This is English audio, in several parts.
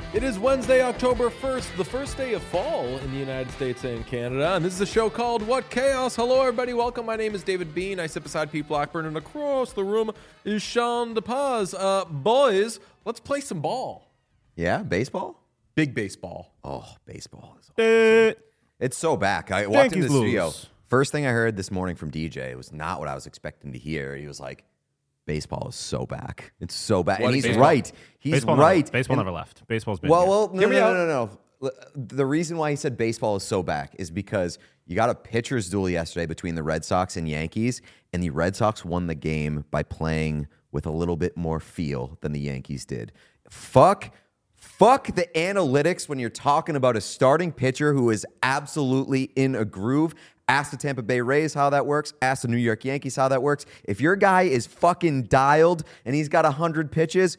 It is Wednesday, October 1st, the first day of fall in the United States and Canada, and this is a show called What Chaos? Hello, everybody. Welcome. My name is David Bean. I sit beside Pete Blackburn, and across the room is Sean DePaz. Boys, let's play some ball. Yeah, baseball? Big baseball. Oh, baseball is awesome. It's so back. I walked into the studio. First thing I heard this morning from DJ was not what I was expecting to hear. He was like, baseball is so back. It's so back. And he's right. He's right. Baseball never left. Baseball's been No. The reason why he said baseball is so back is because you got a pitcher's duel yesterday between the Red Sox and Yankees, and the Red Sox won the game by playing with a little bit more feel than the Yankees did. Fuck the analytics when you're talking about a starting pitcher who is absolutely in a groove. Ask the Tampa Bay Rays how that works. Ask the New York Yankees how that works. If your guy is fucking dialed and he's got 100 pitches,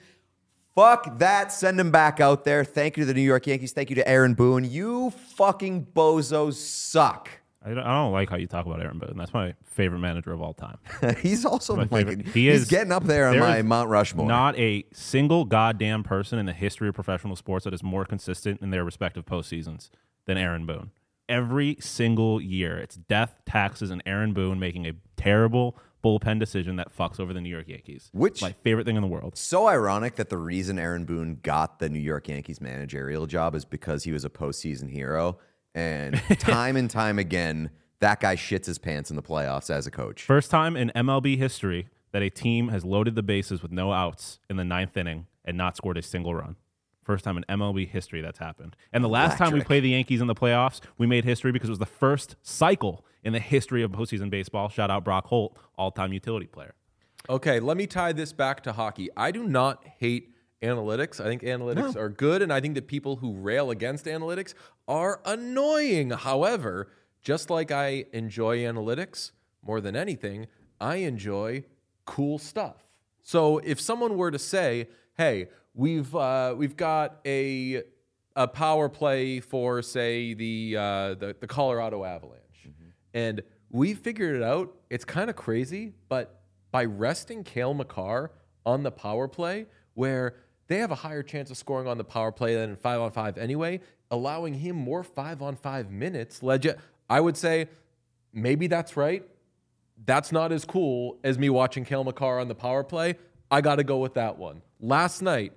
fuck that. Send him back out there. Thank you to the New York Yankees. Thank you to Aaron Boone. You fucking bozos suck. I don't like how you talk about Aaron Boone. That's my favorite manager of all time. He's also he's getting up there on my Mount Rushmore. Not a single goddamn person in the history of professional sports that is more consistent in their respective postseasons than Aaron Boone. Every single year, it's death, taxes, and Aaron Boone making a terrible bullpen decision that fucks over the New York Yankees. Which my favorite thing in the world. So ironic that the reason Aaron Boone got the New York Yankees managerial job is because he was a postseason hero. And time again, that guy shits his pants in the playoffs as a coach. First time in MLB history that a team has loaded the bases with no outs in the ninth inning and not scored a single run. First time in MLB history that's happened. And the last time we played the Yankees in the playoffs, we made history because it was the first cycle in the history of postseason baseball. Shout out Brock Holt, all-time utility player. Okay, let me tie this back to hockey. I do not hate analytics. I think analytics are good, and I think that people who rail against analytics are annoying. However, just like I enjoy analytics more than anything, I enjoy cool stuff. So if someone were to say, hey, we've got a power play for, say, the Colorado Avalanche, and we figured it out. It's kind of crazy, but by resting Cale Makar on the power play, where they have a higher chance of scoring on the power play than in 5-on-5 anyway, allowing him more 5-on-5 minutes, I would say maybe that's right. That's not as cool as me watching Cale Makar on the power play. I got to go with that one. Last night,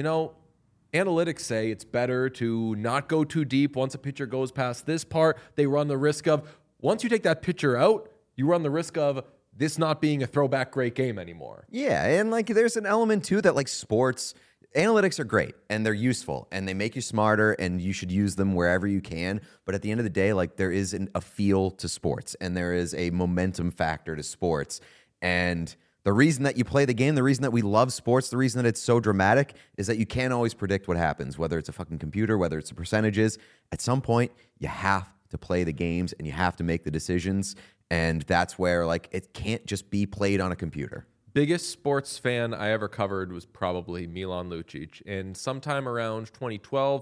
analytics say it's better to not go too deep. Once a pitcher goes past this part, they run the risk of, once you take that pitcher out, you run the risk of this not being a throwback great game anymore. Yeah, and there's an element too that sports analytics are great and they're useful and they make you smarter and you should use them wherever you can. But at the end of the day, there is a feel to sports and there is a momentum factor to sports. And the reason that you play the game, the reason that we love sports, the reason that it's so dramatic is that you can't always predict what happens, whether it's a fucking computer, whether it's the percentages. At some point, you have to play the games and you have to make the decisions. And that's where, it can't just be played on a computer. Biggest sports fan I ever covered was probably Milan Lucic. And sometime around 2012,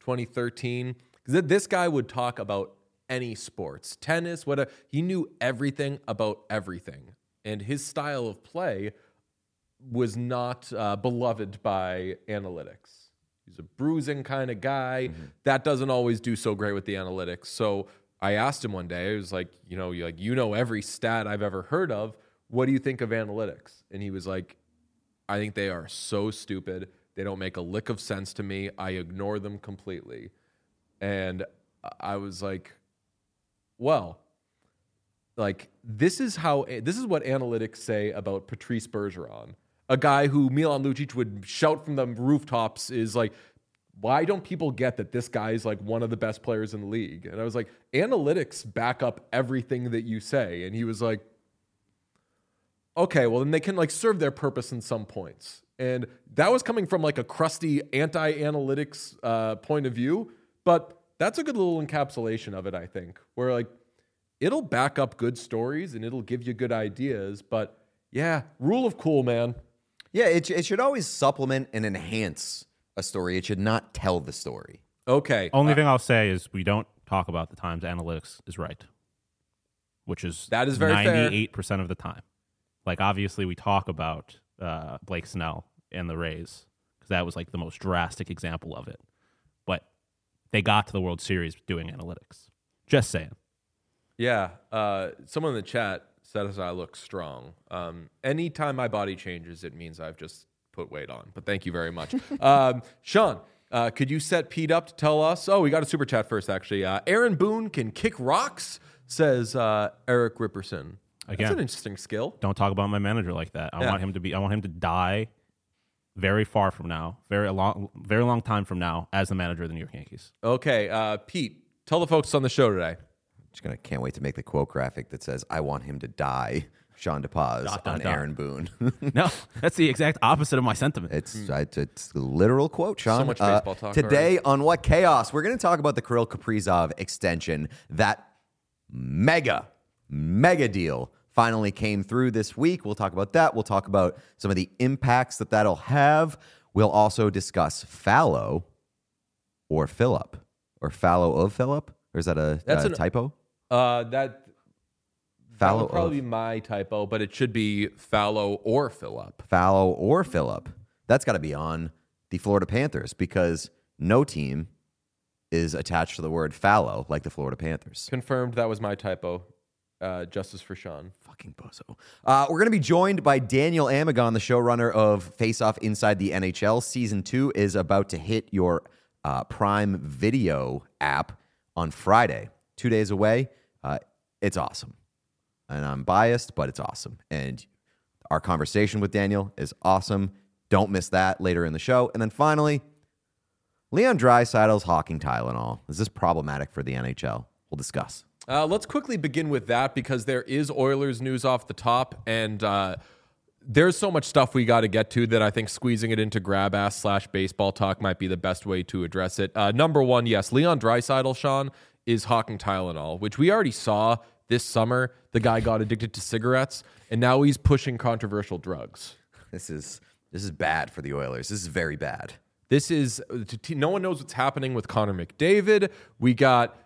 2013, this guy would talk about any sports, tennis, whatever. He knew everything about everything. And his style of play was not beloved by analytics. He's a bruising kind of guy. Mm-hmm. That doesn't always do so great with the analytics. So I asked him one day, I was like, you know every stat I've ever heard of. What do you think of analytics? And he was like, I think they are so stupid. They don't make a lick of sense to me. I ignore them completely. And I was like, well, this is what analytics say about Patrice Bergeron, a guy who Milan Lucic would shout from the rooftops is like, why don't people get that this guy is one of the best players in the league? And I was like, analytics back up everything that you say. And he was like, okay, well then they can serve their purpose in some points. And that was coming from a crusty anti-analytics point of view, but that's a good little encapsulation of it, I think, where it'll back up good stories and it'll give you good ideas, but yeah, rule of cool, man. Yeah, it should always supplement and enhance a story. It should not tell the story. Okay. Only thing I'll say is we don't talk about the times analytics is right, which is that is very 98% of the time. Obviously, we talk about Blake Snell and the Rays because that was the most drastic example of it. they got to the World Series doing analytics. Just saying. Yeah. Someone in the chat says I look strong. Anytime my body changes, it means I've just put weight on. But thank you very much. Sean, could you set Pete up to tell us? Oh, we got a super chat first, actually. Aaron Boone can kick rocks, says Eric Ripperson. Again, that's an interesting skill. Don't talk about my manager like that. I want him to die very far from now, very long time from now, as the manager of the New York Yankees. Okay, Pete, tell the folks on the show today. Can't wait to make the quote graphic that says, "I want him to die." Sean DePaz on Aaron Boone. No, that's the exact opposite of my sentiment. It's a literal quote, Sean. So much baseball talk today on What Chaos, we're going to talk about the Kirill Kaprizov extension. That mega deal finally came through this week. We'll talk about that. We'll talk about some of the impacts that'll have. We'll also discuss Fallow or Phillip, or Fallow of Phillip. Or is that a typo? That would probably be my typo, but it should be Fallow or Phillip. Fallow or Phillip. That's got to be on the Florida Panthers because no team is attached to the word fallow like the Florida Panthers. Confirmed. That was my typo. Justice for Sean. Fucking bozo. We're going to be joined by Daniel Amagon, the showrunner of Face Off Inside the NHL. Season 2 is about to hit your Prime Video app on Friday. 2 days away. It's awesome. And I'm biased, but it's awesome. And our conversation with Daniel is awesome. Don't miss that later in the show. And then finally, Leon Draisaitl's hawking Tylenol. Is this problematic for the NHL? We'll discuss. Let's quickly begin with that because there is Oilers news off the top, and there's so much stuff we got to get to that I think squeezing it into grab-ass/baseball talk might be the best way to address it. Number one, yes, Leon Draisaitl, Sean, is hawking Tylenol, which we already saw this summer. The guy got addicted to cigarettes, and now he's pushing controversial drugs. This is bad for the Oilers. This is very bad. This is no one knows what's happening with Connor McDavid. We got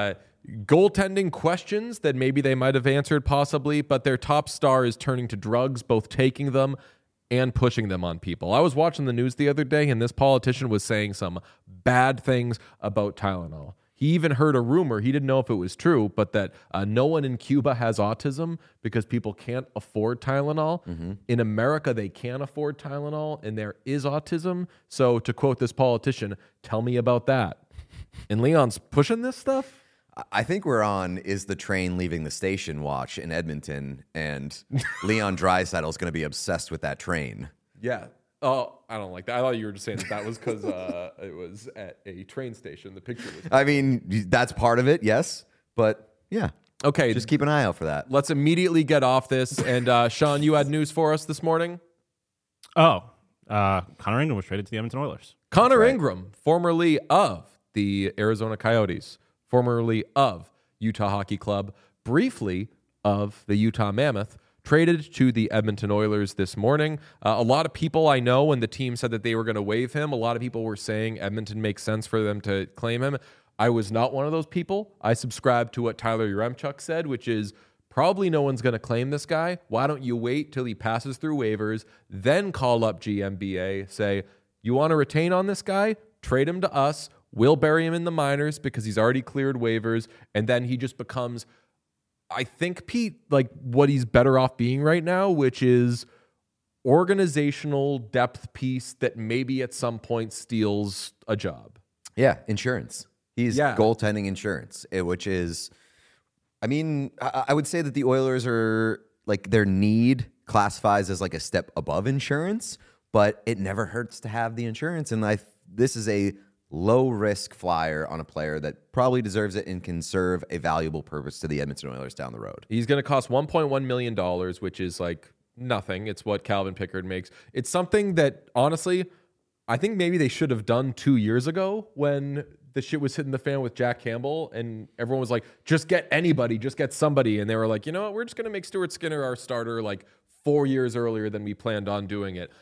goaltending questions that maybe they might have answered possibly, but their top star is turning to drugs, both taking them and pushing them on people. I was watching the news the other day, and this politician was saying some bad things about Tylenol. He even heard a rumor, he didn't know if it was true, but that no one in Cuba has autism because people can't afford Tylenol. Mm-hmm. In America, they can afford Tylenol, and there is autism. So to quote this politician, tell me about that. And Leon's pushing this stuff? I think we're on Is the Train Leaving the Station watch in Edmonton, and Leon Draisaitl is going to be obsessed with that train. Yeah. Oh, I don't like that. I thought you were just saying that was because it was at a train station. The picture was. I mean, that's part of it, yes. But yeah. Okay. Just keep an eye out for that. Let's immediately get off this. And Sean, you had news for us this morning? Oh, Connor Ingram was traded to the Edmonton Oilers. Connor Ingram, formerly of the Arizona Coyotes, formerly of Utah Hockey Club, briefly of the Utah Mammoth, traded to the Edmonton Oilers this morning. A lot of people I know, when the team said that they were going to waive him, a lot of people were saying Edmonton makes sense for them to claim him. I was not one of those people. I subscribed to what Tyler Yaremchuk said, which is probably no one's going to claim this guy. Why don't you wait till he passes through waivers, then call up GMBA, say, you want to retain on this guy? Trade him to us. We'll bury him in the minors because he's already cleared waivers, and then he just becomes, I think, Pete, like what he's better off being right now, which is organizational depth piece that maybe at some point steals a job. Yeah, insurance. He's goaltending insurance, which is, I mean, I would say that the Oilers are, like, their need classifies as like a step above insurance, but it never hurts to have the insurance. And this is a low-risk flyer on a player that probably deserves it and can serve a valuable purpose to the Edmonton Oilers down the road. He's going to cost $1.1 million, which is like nothing. It's what Calvin Pickard makes. It's something that, honestly, I think maybe they should have done 2 years ago when the shit was hitting the fan with Jack Campbell and everyone was like, just get anybody, just get somebody. And they were like, you know what, we're just going to make Stuart Skinner our starter like 4 years earlier than we planned on doing it.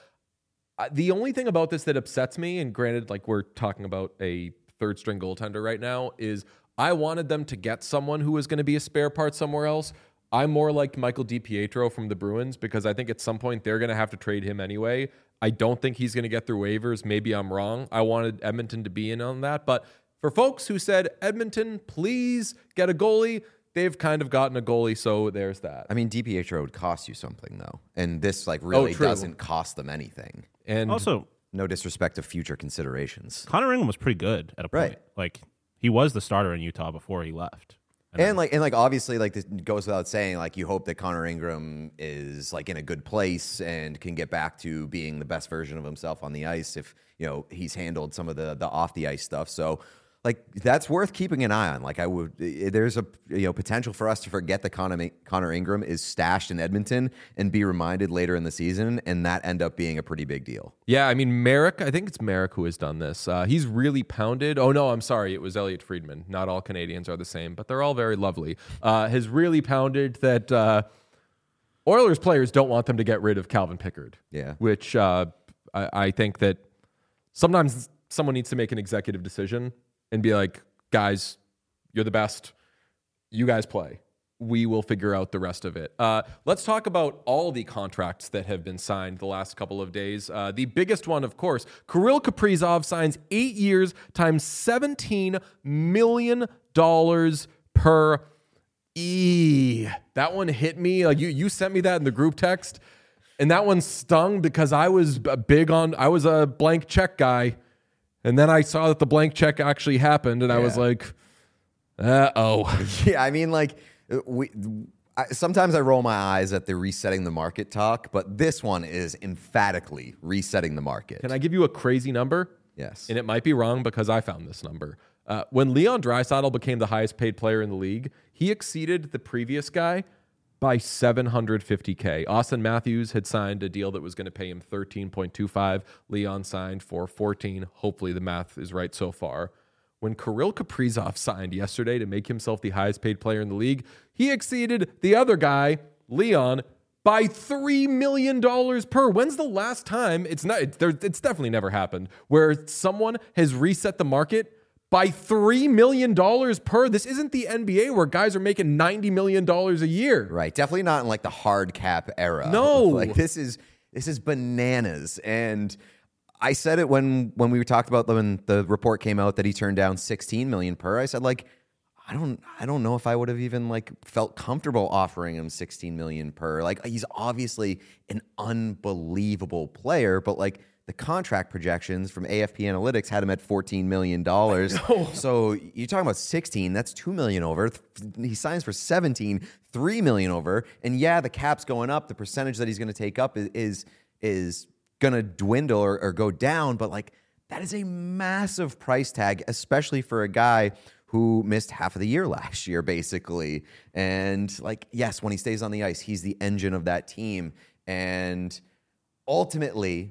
The only thing about this that upsets me, and granted, like we're talking about a third string goaltender right now, is I wanted them to get someone who was going to be a spare part somewhere else. I'm more like Michael DiPietro from the Bruins because I think at some point they're going to have to trade him anyway. I don't think he's going to get through waivers. Maybe I'm wrong. I wanted Edmonton to be in on that. But for folks who said, Edmonton, please get a goalie, they've kind of gotten a goalie, so there's that. I mean, DiPietro would cost you something, though. And this, really true. doesn't cost them anything. And Also, No disrespect to future considerations. Connor Ingram was pretty good at a point. Right. Like, he was the starter in Utah before he left. And obviously, this goes without saying, you hope that Connor Ingram is in a good place and can get back to being the best version of himself on the ice if, he's handled some of the off the ice stuff. So that's worth keeping an eye on. There's a potential for us to forget that Connor Ingram is stashed in Edmonton and be reminded later in the season, and that end up being a pretty big deal. yeah, I mean, Merrick, I think it's Merrick who has done this. He's really pounded. Oh, no, I'm sorry. It was Elliot Friedman. Not all Canadians are the same, but they're all very lovely. Has really pounded that Oilers players don't want them to get rid of Calvin Pickard. Yeah. Which I think that sometimes someone needs to make an executive decision and be like, guys, you're the best. You guys play. We will figure out the rest of it. Let's talk about all the contracts that have been signed the last couple of days. The biggest one, of course, Kirill Kaprizov signs 8 years times $17 million per That one hit me. You sent me that in the group text, and that one stung because I was a blank check guy. And then I saw that the blank check actually happened, and I was like, uh-oh. Yeah, I mean, sometimes I roll my eyes at the resetting the market talk, but this one is emphatically resetting the market. Can I give you a crazy number? Yes. And it might be wrong because I found this number. When Leon Draisaitl became the highest paid player in the league, he exceeded the previous guy by $750K. Austin Matthews had signed a deal that was going to pay him $13.25. Leon signed for $14. Hopefully the math is right so far. When Kirill Kaprizov signed yesterday to make himself the highest paid player in the league, he exceeded the other guy, Leon, by $3 million per. When's the last time? It's definitely never happened where someone has reset the market by $3 million per. This isn't the NBA where guys are making $90 million a year. Right. Definitely not in the hard cap era. No. This is bananas. And I said it when we talked about when the report came out that he turned down $16 million per. I said I don't know if I would have even felt comfortable offering him $16 million per. He's obviously an unbelievable player, but the contract projections from AFP Analytics had him at $14 million. So you're talking about 16, that's $2 million over. He signs for 17, $3 million over. And yeah, the cap's going up. The percentage that he's going to take up is going to dwindle or go down. But that is a massive price tag, especially for a guy who missed half of the year last year, basically. And yes, when he stays on the ice, he's the engine of that team. And ultimately,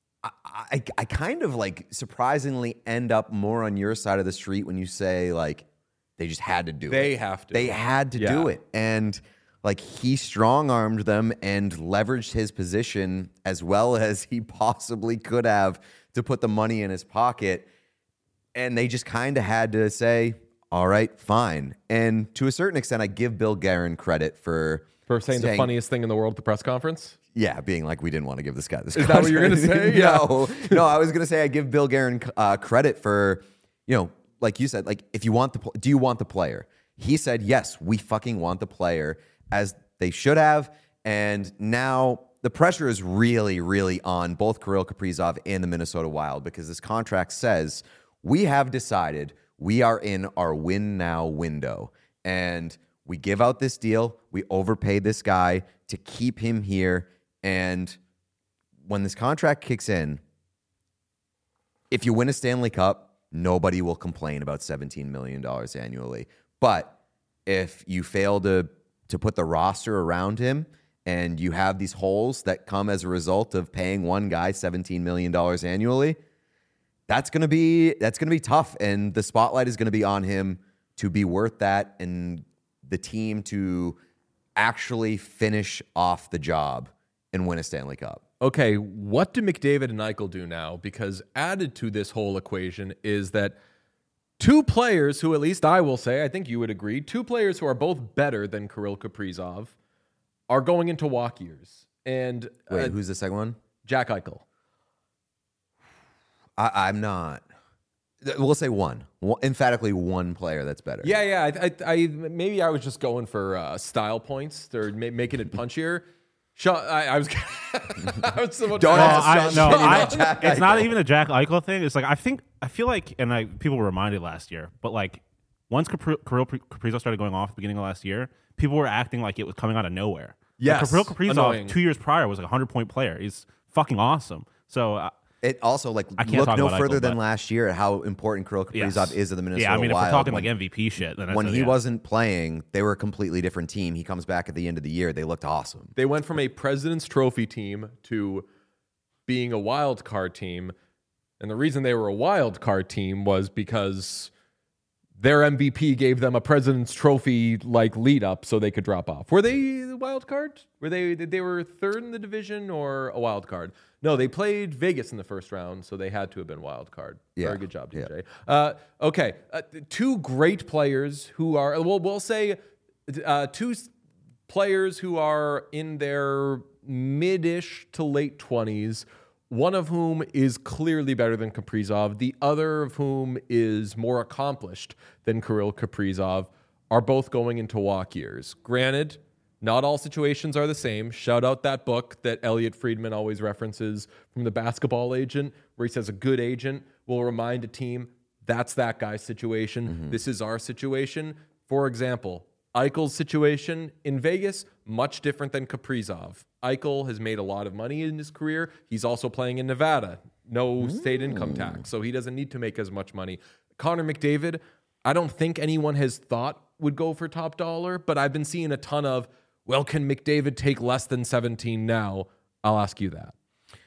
I kind of surprisingly end up more on your side of the street when you say they just had to do it. They have to. They had to do it. And he strong-armed them and leveraged his position as well as he possibly could have to put the money in his pocket. And they just kind of had to say, all right, fine. And to a certain extent, I give Bill Guerin credit for saying the funniest thing in the world at the press conference. Yeah, being we didn't want to give this guy this. Is that what you're going to say? No, I was going to say I give Bill Guerin credit for, like you said, if you want do you want the player? He said, yes, we fucking want the player, as they should have. And now the pressure is really, really on both Kirill Kaprizov and the Minnesota Wild, because this contract says we have decided we are in our win now window. And we give out this deal. We overpay this guy to keep him here. And when this contract kicks in, if you win a Stanley Cup, nobody will complain about $17 million annually. But if you fail to put the roster around him and you have these holes that come as a result of paying one guy $17 million annually, that's going to be tough. And the spotlight is going to be on him to be worth that and the team to actually finish off the job and win a Stanley Cup. Okay, what do McDavid and Eichel do now? Because added to this whole equation is that two players who, at least I will say, I think you would agree, two players who are both better than Kirill Kaprizov are going into walk years. And wait, who's the second one? Jack Eichel. I'm not We'll say one. Emphatically one player that's better. Yeah. I maybe I was just going for style points or making it punchier. I was. I was Don't No, ask Sean Jack it's not Eichel. even a Jack Eichel thing. It's like I feel like, and people were reminded last year, but like once Kirill Kaprizov started going off at the beginning of last year, people were acting like it was coming out of nowhere. Yes, like Kirill Kaprizov annoying. 2 years prior was like a 100-point player. He's fucking awesome. So It also I can't look talk no about further Eichel, than but- last year at how important Kirill Kaprizov is to the Minnesota yeah, I mean, if Wild. we're talking like MVP shit, then When he yeah. wasn't playing, they were a completely different team. He comes back at the end of the year. They looked awesome. They went from a President's Trophy team to being a wild card team. And the reason they were a wild card team was because their MVP gave them a President's Trophy like lead up so they could drop off. Were they the wild card? Were they were third in the division or a wild card? No, they played Vegas in the first round, so they had to have been wild card. Yeah. Very good job, Yeah. DJ. Okay, two great players who are we'll say two players who are in their mid-ish to late 20s, one of whom is clearly better than Kaprizov, the other of whom is more accomplished than Kirill Kaprizov, are both going into walk years. Granted, not all situations are the same. Shout out that book that Elliot Friedman always references from The Basketball Agent, where he says a good agent will remind a team that's that guy's situation. This is our situation. For example, Eichel's situation in Vegas, much different than Kaprizov. Eichel has made a lot of money in his career. He's also playing in Nevada. No state income tax, so he doesn't need to make as much money. Connor McDavid, I don't think anyone has thought would go for top dollar, but I've been seeing a ton of, well, can McDavid take less than 17 now? I'll ask you that.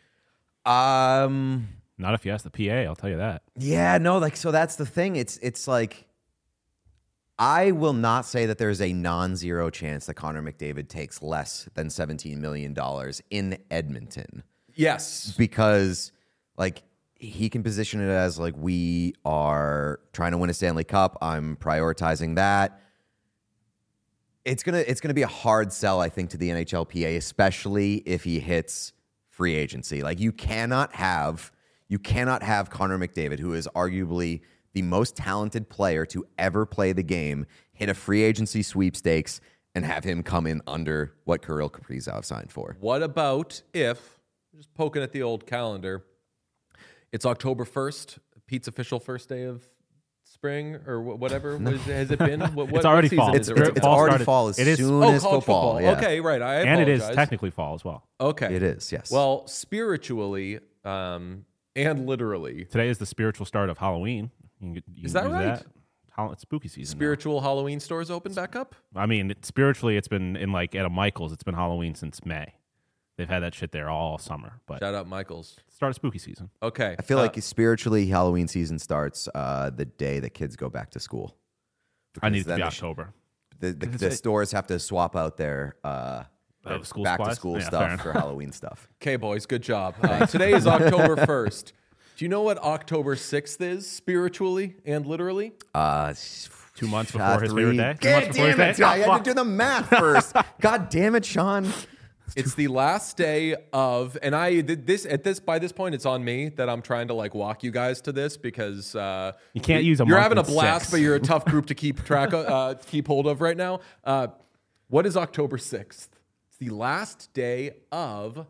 Not if you ask the PA, I'll tell you that. Yeah, no, so that's the thing. It's like I will not say that there's a non-zero chance that Connor McDavid takes less than $17 million in Edmonton. Yes. Because he can position it as like, we are trying to win a Stanley Cup. I'm prioritizing that. It's gonna be a hard sell, I think, to the NHLPA, especially if he hits free agency. Like you cannot have Connor McDavid, who is arguably the most talented player to ever play the game, hit a free agency sweepstakes and have him come in under what Kirill Kaprizov signed for. What about if, just poking at the old calendar, it's October 1st, Pete's official first day of spring or whatever? Has it been? It's already season fall. is it It's right now? Fall already started. fall as It is- soon as college football. Yeah. Okay, right. I And it is apologize. technically fall as well. Okay. It is, yes. Well, spiritually and literally, Today is the spiritual start of Halloween. You can Is that use right? It's spooky season. now. spiritual Halloween stores open back up? I mean, spiritually, it's been in like at a Michael's. It's been Halloween since May. They've had that shit there all summer. But Shout out Michaels. start of spooky season. Okay. I feel like spiritually Halloween season starts the day that kids go back to school. I need Because it to then be the October. The stores have to swap out their School back to supplies? school Yeah, fair stuff enough. for Halloween stuff. Okay, boys, good job. Today is October 1st. Do you know what October 6th is spiritually and literally? 2 months before his favorite day. 2 God months before his damn it! day. I had to do the math first. God damn it, Sean. It's the last day of, and I did this by this point, it's on me that I'm trying to like walk you guys to this because You can't use a You're month having a and blast, 6. but you're a tough group to keep track of, keep hold of right now. What is October 6th? It's the last day of.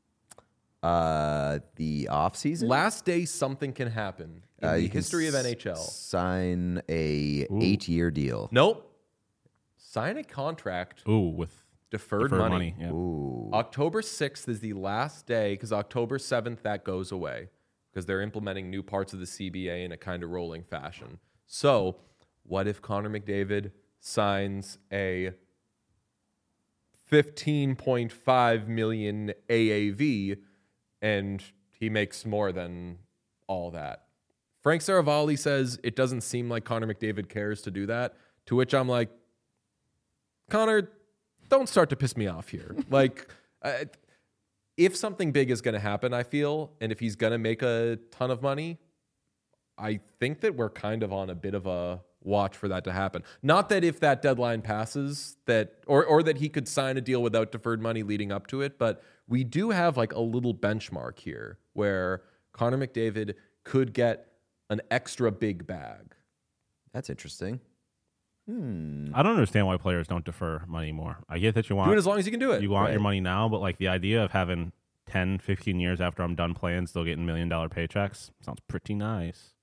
The off season. Last day something can happen in the You can history of NHL. Sign a 8-year deal. Nope. Sign a contract. Ooh, with Deferred deferred money. money. Yeah. Ooh. October 6th is the last day because October 7th that goes away because they're implementing new parts of the CBA in a kind of rolling fashion. So, what if Connor McDavid signs a $15.5 million AAV and he makes more than all that? Frank Saravalli says it doesn't seem like Connor McDavid cares to do that, to which I'm like, Connor, don't start to piss me off here. Like, if something big is going to happen, I feel, and if he's going to make a ton of money, I think that we're kind of on a bit of a watch for that to happen. Not that if that deadline passes, that or that he could sign a deal without deferred money leading up to it, but we do have like a little benchmark here where Connor McDavid could get an extra big bag. That's interesting. I don't understand why players don't defer money more. I get that you want Do it as long as you can do it. you want your money now, but like the idea of having 10, 15 years after I'm done playing, still getting $1 million paychecks sounds pretty nice.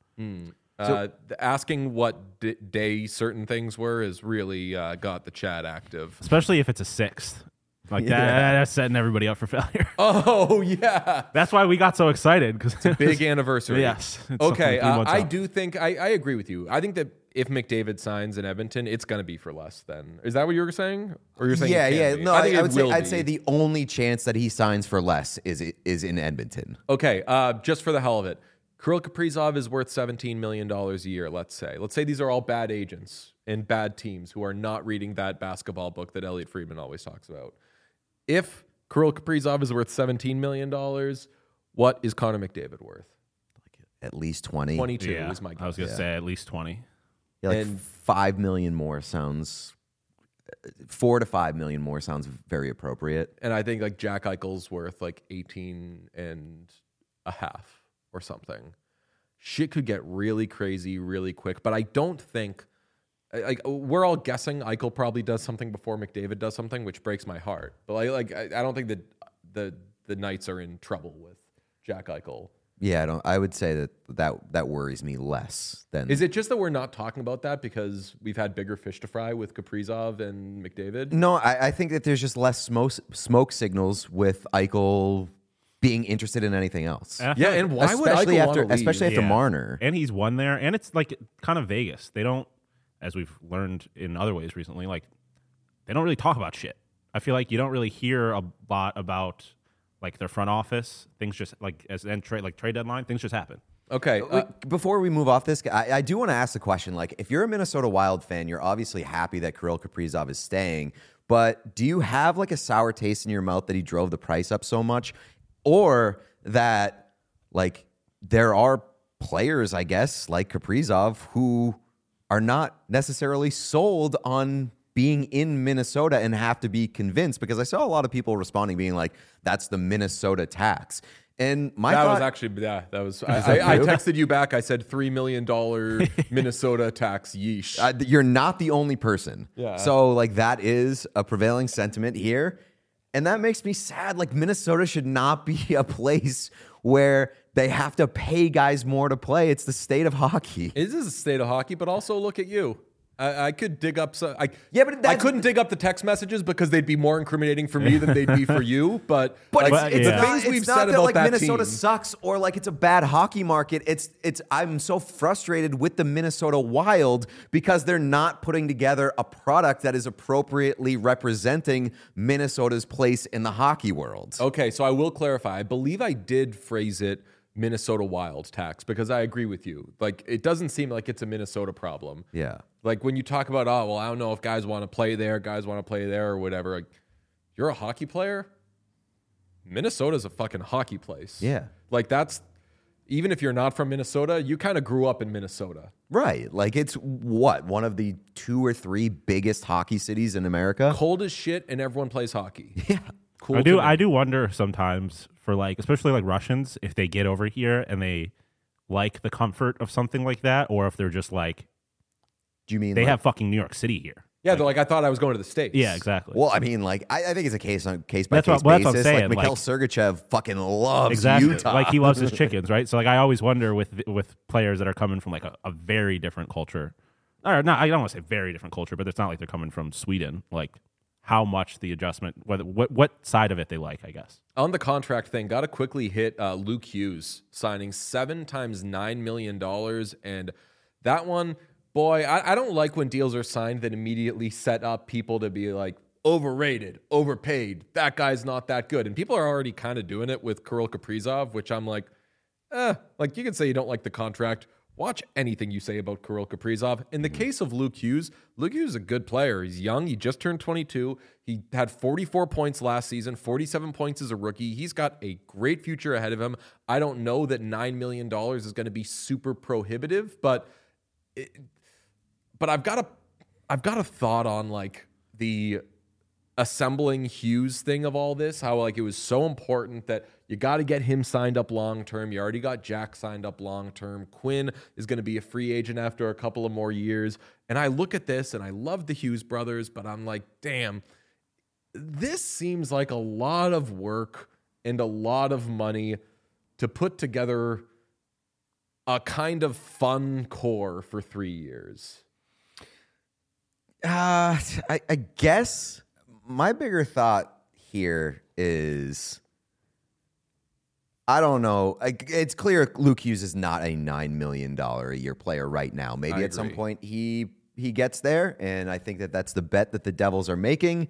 Asking what day certain things were is really got the chat active. Especially if it's a sixth. Like that's setting everybody up for failure. Oh, yeah. That's why we got so excited. Because Big anniversary. Yes. It's Okay. something 3 months I out. do think, I agree with you. I think that if McDavid signs in Edmonton, it's going to be for less then. Is that what you were saying? Or you're saying it can be? No, I think I'd say the only chance that he signs for less is in Edmonton. Okay, just for the hell of it. Kirill Kaprizov is worth $17 million a year, let's say. Let's say these are all bad agents and bad teams who are not reading that basketball book that Elliot Friedman always talks about. If Kirill Kaprizov is worth $17 million, what is Connor McDavid worth? At least 20. 22 is my guess. I was going to say at least 20. Yeah, like And- 5 million more sounds. 4 to 5 million more sounds very appropriate. And I think like Jack Eichel's worth like 18 and a half or something. Shit could get really crazy really quick, but I don't think like we're all guessing Eichel probably does something before McDavid does something, which breaks my heart. But I don't think that the Knights are in trouble with Jack Eichel. Yeah, I would say that worries me less than. Is it just that we're not talking about that because we've had bigger fish to fry with Kaprizov and McDavid? No, I think that there's just less smoke signals with Eichel being interested in anything else. Yeah, and why would especially Eichel after wanna leave? especially after Marner. And he's won there. And it's like kind of Vegas. They don't, as we've learned in other ways recently, like they don't really talk about shit. I feel like you don't really hear a lot about like their front office. Things just like trade deadline, things just happen. Okay, Before we move off this, I do want to ask the question, like, if you're a Minnesota Wild fan, you're obviously happy that Kirill Kaprizov is staying, but do you have like a sour taste in your mouth that he drove the price up so much? Or that, like, there are players, I guess, like Kaprizov, who are not necessarily sold on being in Minnesota and have to be convinced? Because I saw a lot of people responding being like, that's the Minnesota tax. And my that thought, was actually, yeah, that was, I texted you back. I said $3 million Minnesota tax, yeesh. you're not the only person. Yeah. So, like, that is a prevailing sentiment here. And that makes me sad. Like, Minnesota should not be a place where they have to pay guys more to play. It's the state of hockey. It is a state of hockey, but also look at you. I could dig up some. Yeah, but I that's- couldn't dig up the text messages because they'd be more incriminating for me than they'd be for you. But like, it's the not, things it's we've not said that about like that Minnesota team. sucks or like it's a bad hockey market. It's I'm so frustrated with the Minnesota Wild because they're not putting together a product that is appropriately representing Minnesota's place in the hockey world. Okay, so I will clarify. I believe I did phrase it Minnesota Wild tax because I agree with you. Like, it doesn't seem like it's a Minnesota problem. Yeah. Like when you talk about, oh, well, I don't know if guys want to play there, or whatever. Like, you're a hockey player. Minnesota's a fucking hockey place. Yeah. Like, that's, even if you're not from Minnesota, you kind of grew up in Minnesota. Right. Like it's one of the 2 or 3 biggest hockey cities in America. Cold as shit, and everyone plays hockey. Yeah. Cool. I to me. do wonder sometimes for like, especially like Russians, if they get over here and they like the comfort of something like that, or if they're just like, Do you mean they like, have fucking New York City here. Yeah, they're like, I thought I was going to the States. Yeah, exactly. Well, I mean, like I think it's a case by That's case what I'm basis. saying, Like Mikhail like- Sergachev fucking loves Exactly. Utah. Like he loves his chickens, right? So like I always wonder with players that are coming from like a very different culture. Or not, I don't want to say very different culture, but it's not like they're coming from Sweden. Like how much the adjustment, what side of it they like, I guess. On the contract thing, got to quickly hit Luke Hughes signing 7 times $9 million. And that one, boy, I don't like when deals are signed that immediately set up people to be like overrated, overpaid. That guy's not that good. And people are already kind of doing it with Kirill Kaprizov, which I'm like, like you can say you don't like the contract. Watch anything you say about Kirill Kaprizov. In the case of Luke Hughes is a good player. He's young. He just turned 22. He had 44 points last season, 47 points as a rookie. He's got a great future ahead of him. I don't know that $9 million is going to be super prohibitive, but I've got a thought on like the assembling Hughes thing of all this, how like it was so important that you got to get him signed up long term. You already got Jack signed up long term. Quinn is going to be a free agent after a couple of more years. And I look at this and I love the Hughes brothers, but I'm like, damn, this seems like a lot of work and a lot of money to put together a kind of fun core for 3 years. I guess my bigger thought here is, I don't know. It's clear Luke Hughes is not a $9 million a year player right now. Maybe at some point he gets there, and I think that that's the bet that the Devils are making.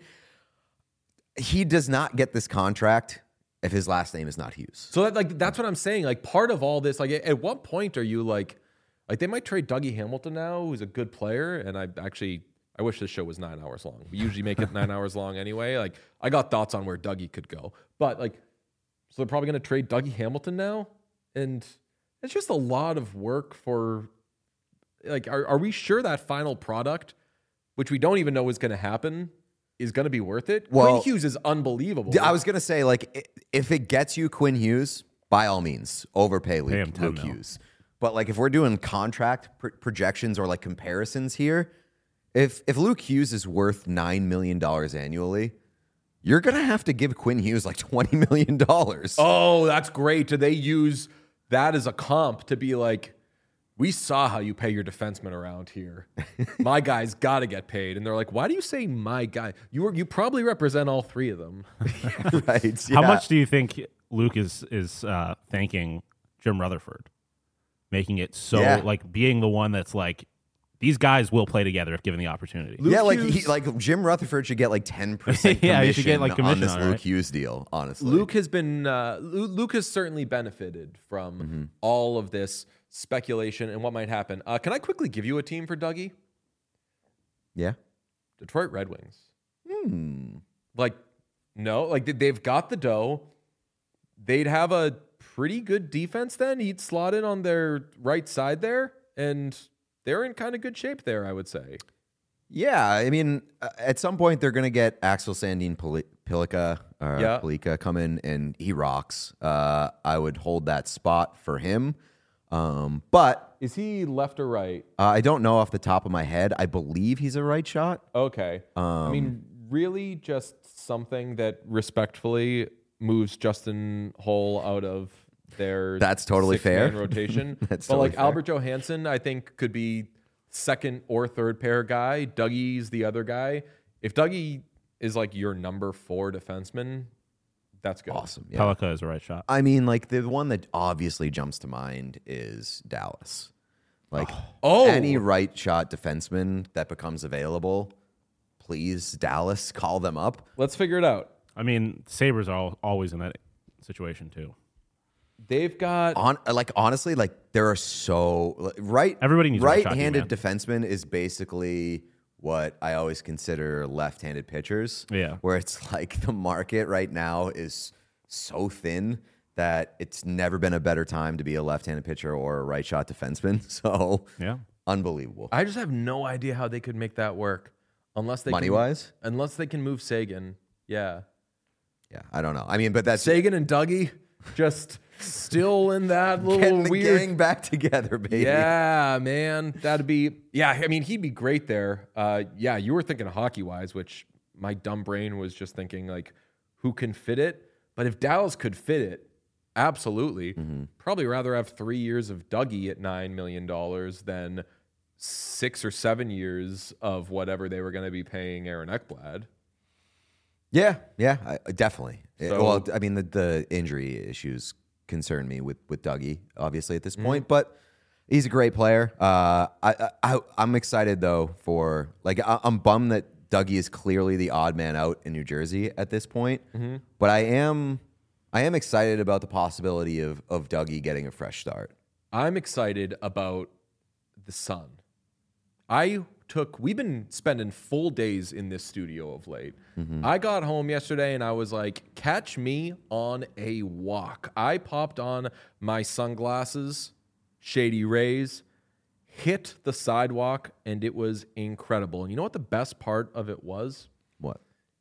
He does not get this contract if his last name is not Hughes. So that's what I'm saying. Like, part of all this, like, at what point are you like they might trade Dougie Hamilton now, who's a good player, and I wish this show was 9 hours long. We usually make it 9 hours long anyway. Like, I got thoughts on where Dougie could go. But, like, so they're probably going to trade Dougie Hamilton now? And it's just a lot of work for, like, are we sure that final product, which we don't even know is going to happen, is going to be worth it? Well, Quinn Hughes is unbelievable. I was going to say, like, if it gets you Quinn Hughes, by all means, overpay Luke Hughes. But, like, if we're doing contract projections or, like, comparisons here, If Luke Hughes is worth $9 million annually, you're going to have to give Quinn Hughes like $20 million. Oh, that's great. Do they use that as a comp to be like, we saw how you pay your defensemen around here. My guy's got to get paid. And they're like, why do you say my guy? You probably represent all three of them. Right. Yeah. How much do you think Luke is thanking Jim Rutherford? Making it so, like, being the one that's like, these guys will play together if given the opportunity. Like Jim Rutherford should get like 10% commission. Yeah, he should get like commission on this on Luke it. Hughes deal. Honestly, Luke has certainly benefited from all of this speculation and what might happen. Can I quickly give you a team for Dougie? Yeah, Detroit Red Wings. Like, no, like they've got the dough. They'd have a pretty good defense. Then he'd slot in on their right side there, and they're in kind of good shape there, I would say. Yeah, I mean, at some point they're going to get Axel Sandin Pellikka come in, and he rocks. I would hold that spot for him. But is he left or right? I don't know off the top of my head. I believe he's a right shot. Okay. I mean, really just something that respectfully moves Justin Holl out of their that's totally fair rotation. That's but totally like fair. Albert Johansson, I think could be second or third pair guy. Dougie's the other guy. If Dougie is like your number 4 defenseman, that's good. Awesome. Yeah. Pellikka is a right shot. I mean, like the one that obviously jumps to mind is Dallas. Like any right shot defenseman that becomes available, please, Dallas, call them up. Let's figure it out. I mean, Sabres are always in that situation too. They've got honestly, like there are so everybody needs right-handed defenseman is basically what I always consider left-handed pitchers. Yeah, where it's like the market right now is so thin that it's never been a better time to be a left-handed pitcher or a right shot defenseman. So yeah, unbelievable. I just have no idea how they could make that work unless they money-wise, unless they can move Sagan. Yeah, I don't know. I mean, but that's Sagan and Dougie just still in that little getting the weird gang back together, baby. Yeah, man, that'd be I mean, he'd be great there. Yeah, you were thinking hockey-wise, which my dumb brain was just thinking like, who can fit it? But if Dallas could fit it, absolutely. Probably rather have 3 years of Dougie at $9 million than 6 or 7 years of whatever they were going to be paying Aaron Ekblad. Yeah, definitely. So, well, I mean, the injury issues concern me with Dougie, obviously, at this point, but he's a great player. I'm excited, though, for, like, I'm bummed that Dougie is clearly the odd man out in New Jersey at this point, but I am excited about the possibility of Dougie getting a fresh start. I'm excited about the Sun. We've been spending full days in this studio of late. I got home yesterday and I was like, catch me on a walk. I popped on my sunglasses, Shady Rays, hit the sidewalk, and it was incredible. And you know what the best part of it was? What?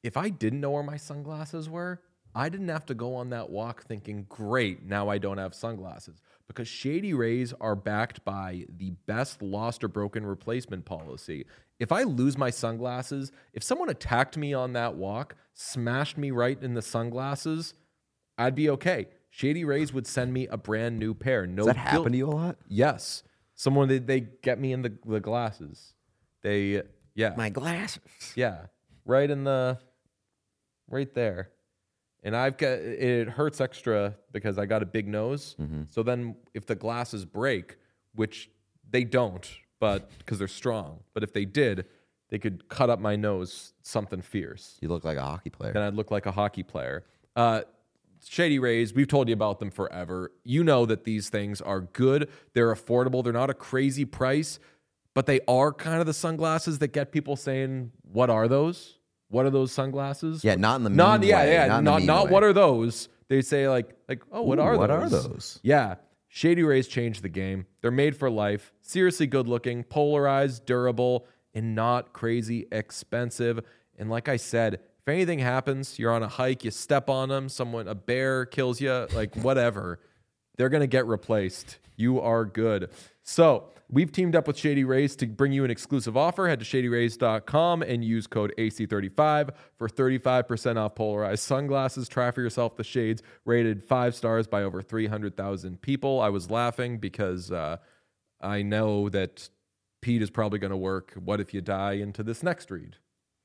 if I didn't know where my sunglasses were, I didn't have to go on that walk thinking, great, now I don't have sunglasses. Because Shady Rays are backed by the best lost or broken replacement policy. If I lose my sunglasses, if someone attacked me on that walk, smashed me right in the sunglasses, I'd be okay. Shady Rays would send me a brand new pair. No, Does that happen to you a lot? Yes. Someone, they get me in the glasses. Yeah. My glasses. Yeah. Right there. And it hurts extra because I got a big nose. Mm-hmm. So then if the glasses break, which they don't, but because they're strong, but if they did, they could cut up my nose, something fierce. You look like a hockey player. Then I'd look like a hockey player. Shady Rays, we've told you about them forever. You know that these things are good. They're affordable. They're not a crazy price, but they are kind of the sunglasses that get people saying, what are those? What are those sunglasses? Yeah, not in the mean way. Not what are those? They say like, oh, what are those? What are those? Yeah. Shady Rays changed the game. They're made for life. Seriously good looking, polarized, durable, and not crazy expensive. And like I said, if anything happens, you're on a hike, you step on them, a bear kills you, like whatever, they're going to get replaced. You are good. So we've teamed up with Shady Rays to bring you an exclusive offer. Head to shadyrays.com and use code AC35 for 35% off polarized sunglasses. Try for yourself the shades, rated 5 stars by over 300,000 people. I was laughing because I know that Pete is probably going to work What If You Die into this next read.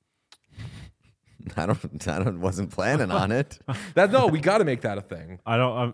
I wasn't planning on it. No, we got to make that a thing. I don't.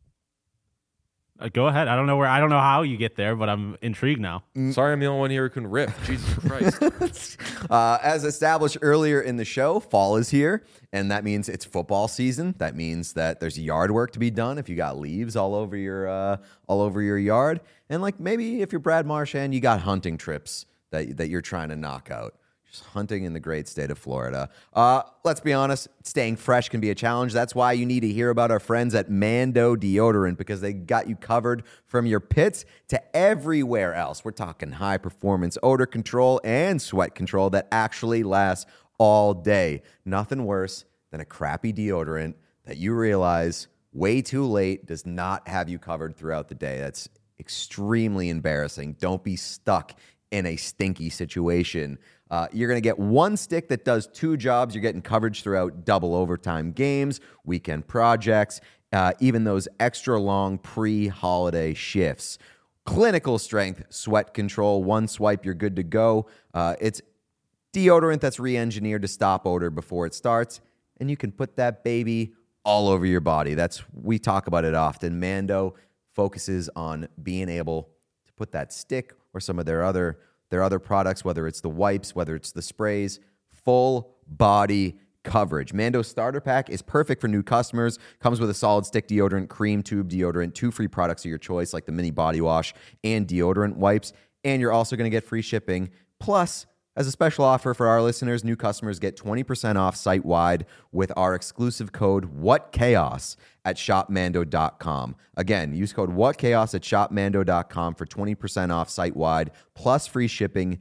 Go ahead. I don't know how you get there, but I'm intrigued now. Sorry, I'm the only one here who can riff. Jesus Christ. As established earlier in the show, fall is here, and that means it's football season. That means that there's yard work to be done if you got leaves all over your yard, and like maybe if you're Brad Marchand, you got hunting trips that you're trying to knock out. Just hunting in the great state of Florida. Let's be honest, staying fresh can be a challenge. That's why you need to hear about our friends at Mando Deodorant, because they got you covered from your pits to everywhere else. We're talking high performance odor control and sweat control that actually lasts all day. Nothing worse than a crappy deodorant that you realize way too late does not have you covered throughout the day. That's extremely embarrassing. Don't be stuck in a stinky situation. You're going to get one stick that does 2 jobs. You're getting coverage throughout double overtime games, weekend projects, even those extra long pre-holiday shifts. Clinical strength sweat control. One swipe, you're good to go. It's deodorant that's re-engineered to stop odor before it starts, and you can put that baby all over your body. We talk about it often. Mando focuses on being able to put that stick or some of their other products, whether it's the wipes, whether it's the sprays, full body coverage. Mando Starter Pack is perfect for new customers. Comes with a solid stick deodorant, cream tube deodorant, 2 free products of your choice like the mini body wash and deodorant wipes. And you're also going to get free shipping. Plus, as a special offer for our listeners, new customers get 20% off site-wide with our exclusive code WhatChaos at shopmando.com. Again, use code WhatChaos at shopmando.com for 20% off site-wide plus free shipping,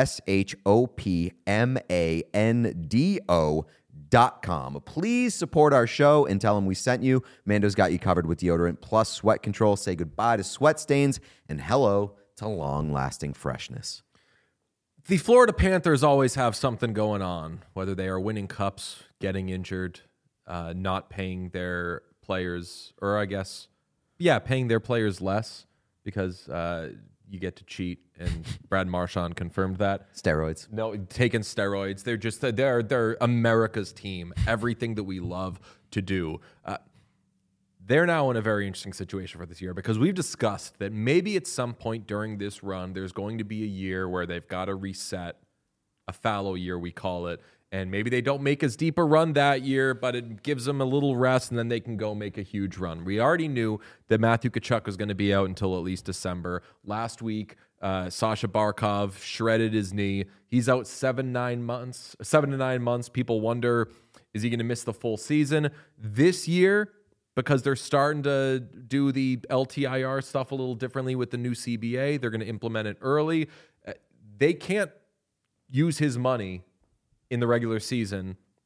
shopmando.com. Please support our show and tell them we sent you. Mando's got you covered with deodorant plus sweat control. Say goodbye to sweat stains and hello to long-lasting freshness. The Florida Panthers always have something going on, whether they are winning cups, getting injured, not paying their players, or paying their players less because you get to cheat, and Brad Marchand confirmed that. Steroids. No, taking steroids. They're America's team. Everything that we love to do. They're now in a very interesting situation for this year because we've discussed that maybe at some point during this run, there's going to be a year where they've got to reset, a fallow year, we call it. And maybe they don't make as deep a run that year, but it gives them a little rest, and then they can go make a huge run. We already knew that Matthew Tkachuk was going to be out until at least December. Last week, Sasha Barkov shredded his knee. He's out 7 to 9 months. People wonder, is he going to miss the full season? This year, because they're starting to do the LTIR stuff a little differently with the new CBA. They're going to implement it early. They can't use his money in the regular season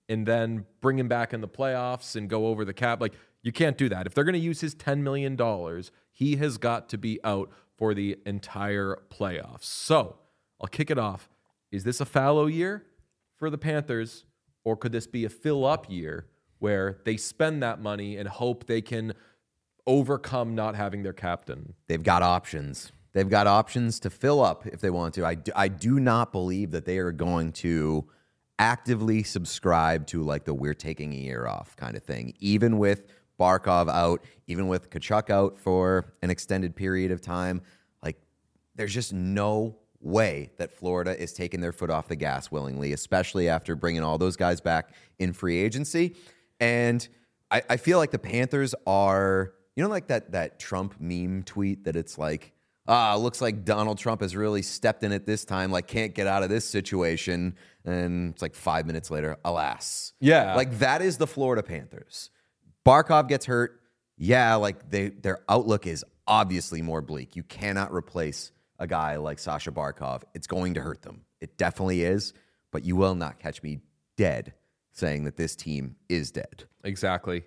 and then bring him back in the playoffs and go over the cap. Like, you can't do that. If they're going to use his $10 million, he has got to be out for the entire playoffs. So I'll kick it off. Is this a fallow year for the Panthers, or could this be a fill-up year where they spend that money and hope they can overcome not having their captain? They've got options. They've got options to fill up if they want to. I do not believe that they are going to actively subscribe to like the we're taking a year off kind of thing. Even with Barkov out, even with Tkachuk out for an extended period of time, like there's just no way that Florida is taking their foot off the gas willingly, especially after bringing all those guys back in free agency. And I feel like the Panthers are, you know, like that Trump meme tweet that it's like, looks like Donald Trump has really stepped in it this time, like can't get out of this situation. And it's like 5 minutes later, alas. Yeah. Like that is the Florida Panthers. Barkov gets hurt. Yeah, like their outlook is obviously more bleak. You cannot replace a guy like Sasha Barkov. It's going to hurt them. It definitely is. But you will not catch me dead saying that this team is dead. Exactly.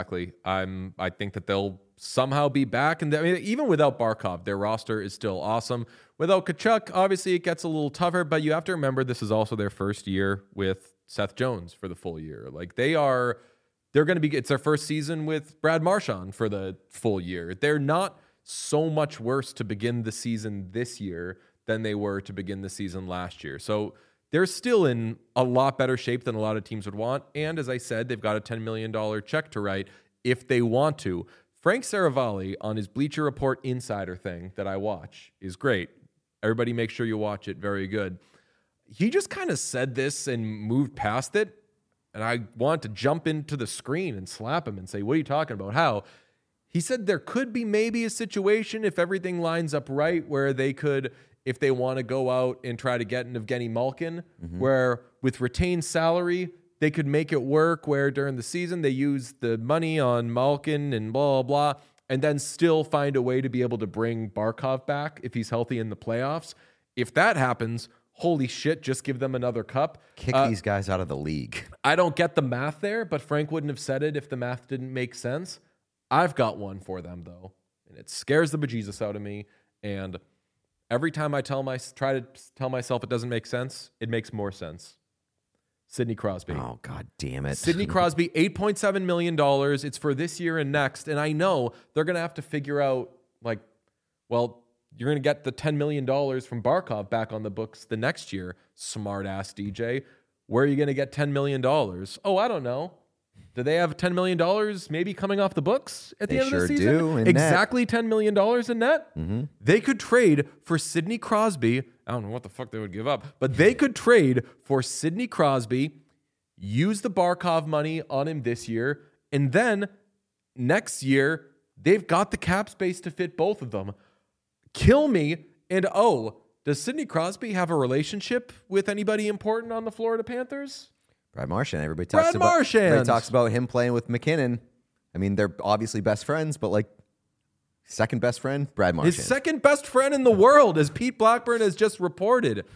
I think that they'll somehow be back. And I mean, even without Barkov, their roster is still awesome. Without Tkachuk, obviously it gets a little tougher, but you have to remember this is also their first year with Seth Jones for the full year. Like they're going to be, it's their first season with Brad Marchand for the full year. They're not so much worse to begin the season this year than they were to begin the season last year. So they're still in a lot better shape than a lot of teams would want. And as I said, they've got a $10 million check to write if they want to. Frank Saravalli on his Bleacher Report Insider thing that I watch is great. Everybody make sure you watch it. Very good. He just kind of said this and moved past it. And I want to jump into the screen and slap him and say, what are you talking about? How? He said there could be maybe a situation if everything lines up right where they could, if they want to go out and try to get an Evgeny Malkin, where with retained salary, they could make it work where during the season they use the money on Malkin and blah, blah, blah, and then still find a way to be able to bring Barkov back if he's healthy in the playoffs. If that happens, holy shit, just give them another cup. Kick these guys out of the league. I don't get the math there, but Frank wouldn't have said it if the math didn't make sense. I've got one for them, though, and it scares the bejesus out of me. And every time I try to tell myself it doesn't make sense, it makes more sense. Sidney Crosby. Oh, God damn it. Sidney Crosby, $8.7 million. It's for this year and next. And I know they're going to have to figure out, like, well, you're going to get the $10 million from Barkov back on the books the next year, smart-ass DJ. Where are you going to get $10 million? Oh, I don't know. Do they have $10 million maybe coming off the books at the end of the season? They sure do. Exactly $10 million in net? Mm-hmm. They could trade for Sidney Crosby. I don't know what the fuck they would give up, but they could trade for Sidney Crosby, use the Barkov money on him this year, and then next year, they've got the cap space to fit both of them. Kill me. And does Sidney Crosby have a relationship with anybody important on the Florida Panthers? Brad Marchand. Everybody talks about him playing with McKinnon. I mean, they're obviously best friends, but like second best friend, Brad Marchand. His second best friend in the world, as Pete Blackburn has just reported.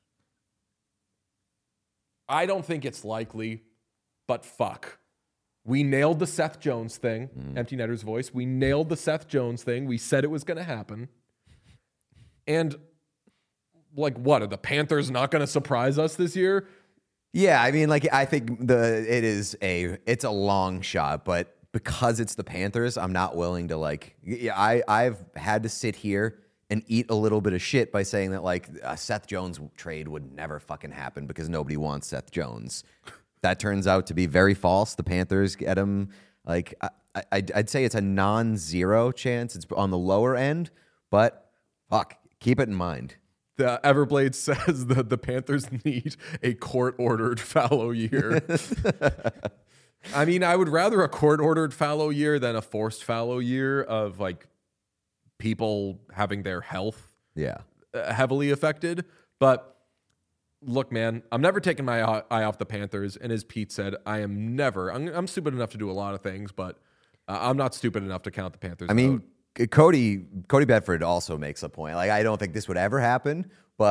I don't think it's likely, but fuck. We nailed the Seth Jones thing. Empty Netter's voice. We nailed the Seth Jones thing. We said it was going to happen. And like, what? Are the Panthers not going to surprise us this year? Yeah, I mean, like I think it's a long shot, but because it's the Panthers, I'm not willing to like. Yeah, I've had to sit here and eat a little bit of shit by saying that like a Seth Jones trade would never fucking happen because nobody wants Seth Jones. That turns out to be very false. The Panthers get him. Like I'd say it's a non-zero chance. It's on the lower end, but fuck, keep it in mind. The Everblade says that the Panthers need a court-ordered fallow year. I mean, I would rather a court-ordered fallow year than a forced fallow year of like people having their health heavily affected. But look, man, I'm never taking my eye off the Panthers. And as Pete said, I'm stupid enough to do a lot of things, but I'm not stupid enough to count the Panthers. I mean, out. Cody Bedford also makes a point. Like, I don't think this would ever happen, but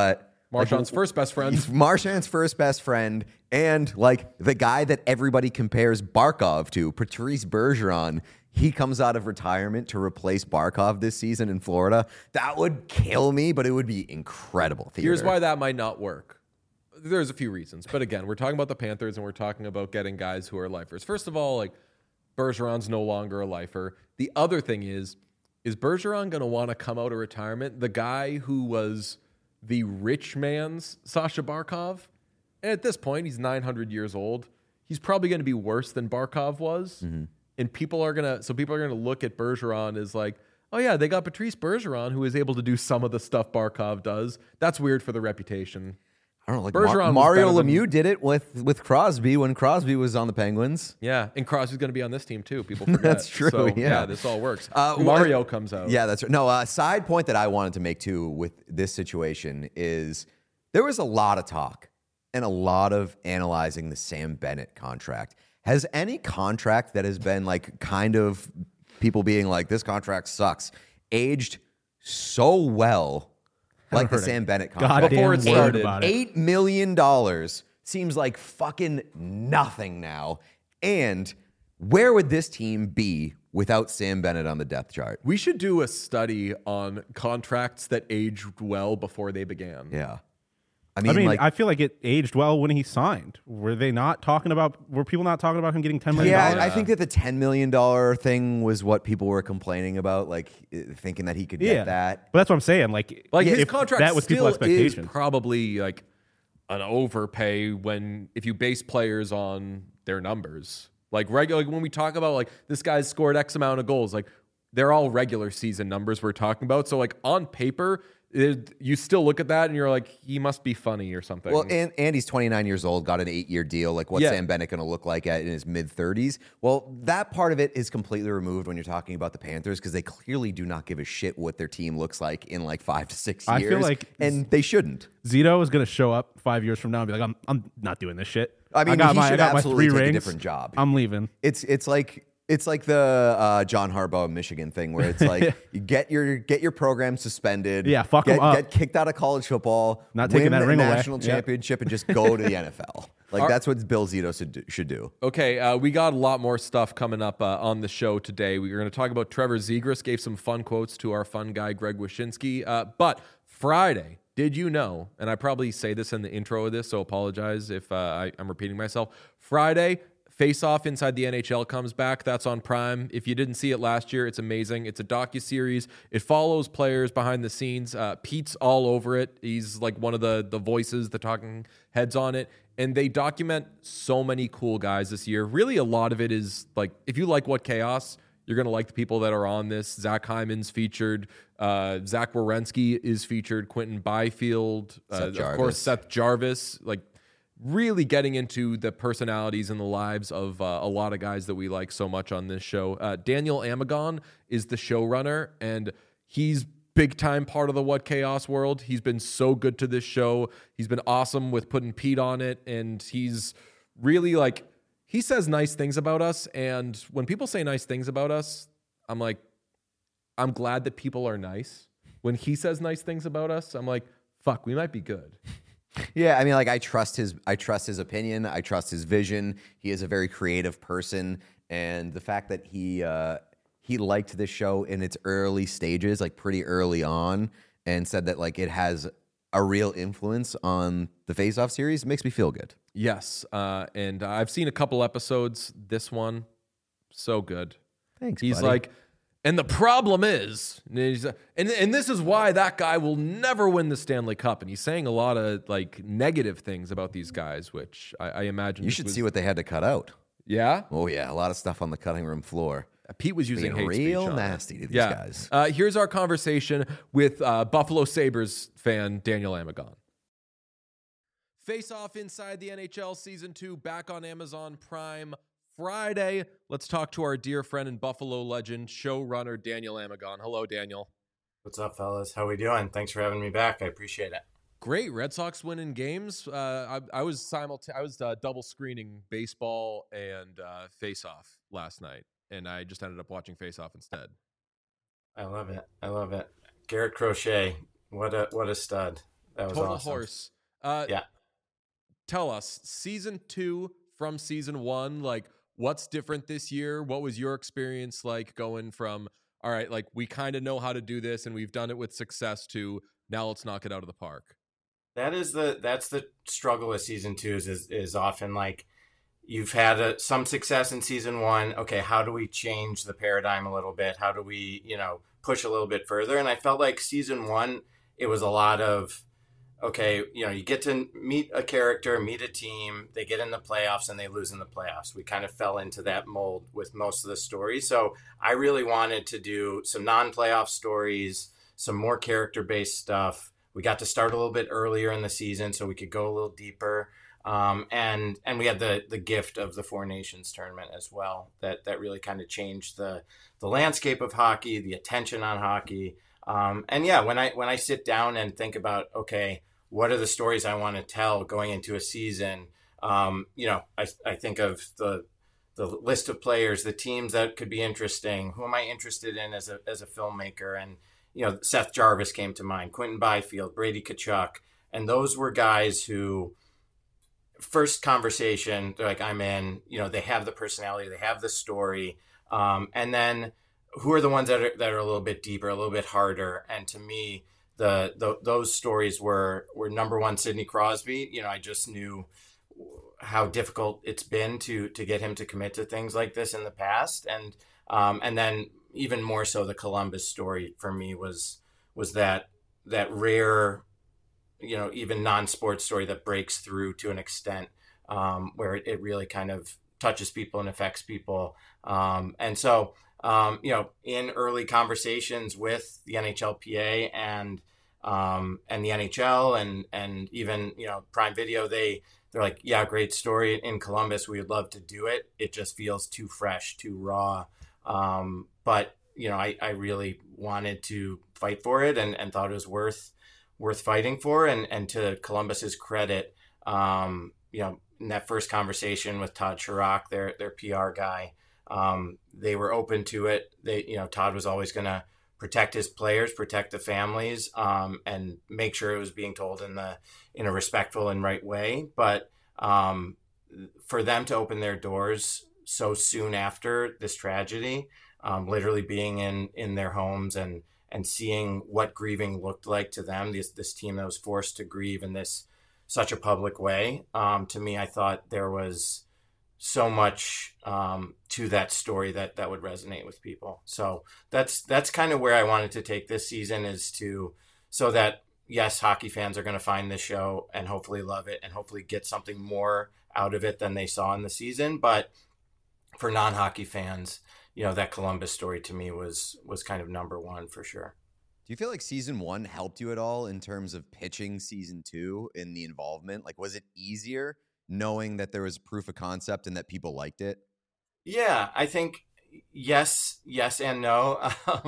Marchand's first best friend. He's Marchand's first best friend, and like the guy that everybody compares Barkov to, Patrice Bergeron. He comes out of retirement to replace Barkov this season in Florida. That would kill me, but it would be incredible theater. Here's why that might not work. There's a few reasons, but again, we're talking about the Panthers and we're talking about getting guys who are lifers. First of all, like Bergeron's no longer a lifer. The other thing is Bergeron going to want to come out of retirement? The guy who was the rich man's Sasha Barkov, and at this point, he's 900 years old. He's probably going to be worse than Barkov was. Mm-hmm. And people are going to look at Bergeron as like, oh yeah, they got Patrice Bergeron who is able to do some of the stuff Barkov does. That's weird for the reputation. I don't know, like Bergeron Mario Lemieux did it with Crosby when Crosby was on the Penguins. Yeah, and Crosby's going to be on this team too. People forget. That's true. So, yeah, this all works. Mario comes out. Yeah, that's right. No, side point that I wanted to make too with this situation is there was a lot of talk and a lot of analyzing the Sam Bennett contract. Has any contract that has been like kind of people being like, this contract sucks, aged so well like the Sam Bennett contract? Before it started. $8 million seems like fucking nothing now. And where would this team be without Sam Bennett on the depth chart? We should do a study on contracts that aged well before they began. Yeah. I mean, I feel like it aged well when he signed. Were people not talking about him getting $10 million? Yeah, I think that the $10 million thing was what people were complaining about, like thinking that he could get that. But that's what I'm saying. Like his contract that was still people's expectation. Is probably like an overpay if you base players on their numbers. Like when we talk about like this guy's scored X amount of goals, like they're all regular season numbers we're talking about. So like on paper, you still look at that and you're like, he must be funny or something. Well, and he's 29 years old, got an 8-year deal. Like, what's Sam Bennett going to look like in his mid-30s? Well, that part of it is completely removed when you're talking about the Panthers because they clearly do not give a shit what their team looks like in like 5 to 6 years. I feel like and they shouldn't. Zito is going to show up 5 years from now and be like, I'm not doing this shit. I mean, he should absolutely take a different job. I'm leaving. It's like the John Harbaugh Michigan thing where it's like you get your program suspended. Yeah, fuck them up. Get kicked out of college football. Not taking that ring away. Win the national championship and just go to the NFL. Like that's what Bill Zito should do. Okay, we got a lot more stuff coming up on the show today. We're going to talk about Trevor Zegras. Gave some fun quotes to our fun guy Greg Wyshynski. But Friday, did you know? And I probably say this in the intro of this, so apologize if I'm repeating myself. Friday. Face Off Inside the NHL comes back. That's on Prime. If you didn't see it last year, it's amazing. It's a docuseries. It follows players behind the scenes. Pete's all over it. He's like one of the voices, the talking heads on it. And they document so many cool guys this year. Really, a lot of it is like, if you like What Chaos, you're going to like the people that are on this. Zach Hyman's featured. Zach Werenski is featured. Quentin Byfield. Of course, Seth Jarvis. Like, really getting into the personalities and the lives of a lot of guys that we like so much on this show. Daniel Amagon is the showrunner, and he's big-time part of the What Chaos world. He's been so good to this show. He's been awesome with putting Pete on it, and he's really, like, he says nice things about us, and when people say nice things about us, I'm like, I'm glad that people are nice. When he says nice things about us, I'm like, fuck, we might be good. Yeah, I mean, like I trust his opinion. I trust his vision. He is a very creative person, and the fact that he liked this show in its early stages, like pretty early on, and said that like it has a real influence on the Face Off series makes me feel good. Yes, and I've seen a couple episodes. This one, so good. Thanks. He's buddy. like. And the problem is, and this is why that guy will never win the Stanley Cup. And he's saying a lot of like negative things about these guys, which I imagine you should see what they had to cut out. Yeah. Oh yeah, a lot of stuff on the cutting room floor. Pete was using hate real speech nasty to these guys. Here's our conversation with Buffalo Sabres fan Daniel Amagon. Face Off Inside the NHL Season 2 back on Amazon Prime Friday. Let's talk to our dear friend and Buffalo legend, showrunner Daniel Amagon. Hello, Daniel. What's up, fellas? How we doing? Thanks for having me back. I appreciate it. Great. Red Sox winning games. I was double screening baseball and Face Off last night, and I just ended up watching Face Off instead. I love it. Garrett Crochet, what a stud. That was Total awesome. horse. Yeah. Tell us, season 2 from season 1, like what's different this year? What was your experience like going from, all right, like we kind of know how to do this and we've done it with success, to now let's knock it out of the park? That's the struggle with season 2 is often like you've had some success in season 1. Okay, how do we change the paradigm a little bit? How do we, push a little bit further? And I felt like season 1, it was a lot of, okay, you get to meet a character, meet a team, they get in the playoffs and they lose in the playoffs. We kind of fell into that mold with most of the stories. So I really wanted to do some non-playoff stories, some more character-based stuff. We got to start a little bit earlier in the season so we could go a little deeper. And we had the gift of the Four Nations tournament as well. That really kind of changed the landscape of hockey, the attention on hockey. And yeah, when I sit down and think about, okay, what are the stories I want to tell going into a season? I think of the list of players, the teams that could be interesting. Who am I interested in as a filmmaker? And Seth Jarvis came to mind, Quentin Byfield, Brady Tkachuk, and those were guys who, first conversation, they're like, I'm in. They have the personality, they have the story, and then who are the ones that are a little bit deeper, a little bit harder? And to me, those stories were number one, Sidney Crosby. I just knew how difficult it's been to get him to commit to things like this in the past, and then even more so, the Columbus story for me was that rare, even non-sports story that breaks through to an extent where it really kind of touches people and affects people. And so, in early conversations with the NHLPA and the NHL and even, Prime Video, they're like, yeah, great story in Columbus. We would love to do it. It just feels too fresh, too raw. But I really wanted to fight for it and thought it was worth fighting for. And to Columbus's credit, in that first conversation with Todd Chirac, their PR guy, they were open to it. Todd was always going to protect his players, protect the families, and make sure it was being told in a respectful and right way. But for them to open their doors so soon after this tragedy, literally being in their homes and seeing what grieving looked like to them, this team that was forced to grieve in such a public way. To me, I thought there was so much to that story that would resonate with people. So that's kind of where I wanted to take this season, so that, yes, hockey fans are going to find this show and hopefully love it and hopefully get something more out of it than they saw in the season. But for non-hockey fans, that Columbus story to me was kind of number one for sure. Do you feel like season 1 helped you at all in terms of pitching season 2 in the involvement? Like, was it easier knowing that there was proof of concept and that people liked it? Yeah, I think yes and no.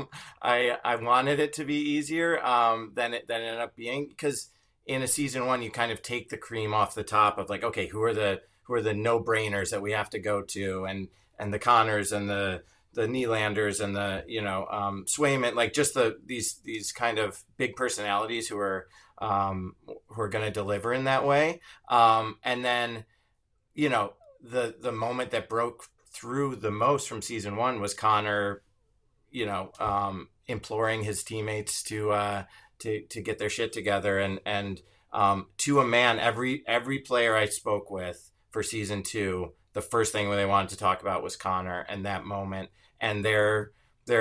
I wanted it to be easier than it ended up being, because in a season 1 you kind of take the cream off the top of like, okay, who are the no-brainers that we have to go to, and the Connors and the Nylanders and the Swayman, like just these kind of big personalities who are going to deliver in that way. And then the moment that broke through the most from season 1 was Connor, imploring his teammates to get their shit together, and to a man, every player I spoke with for season 2, the first thing they wanted to talk about was Connor and that moment. And their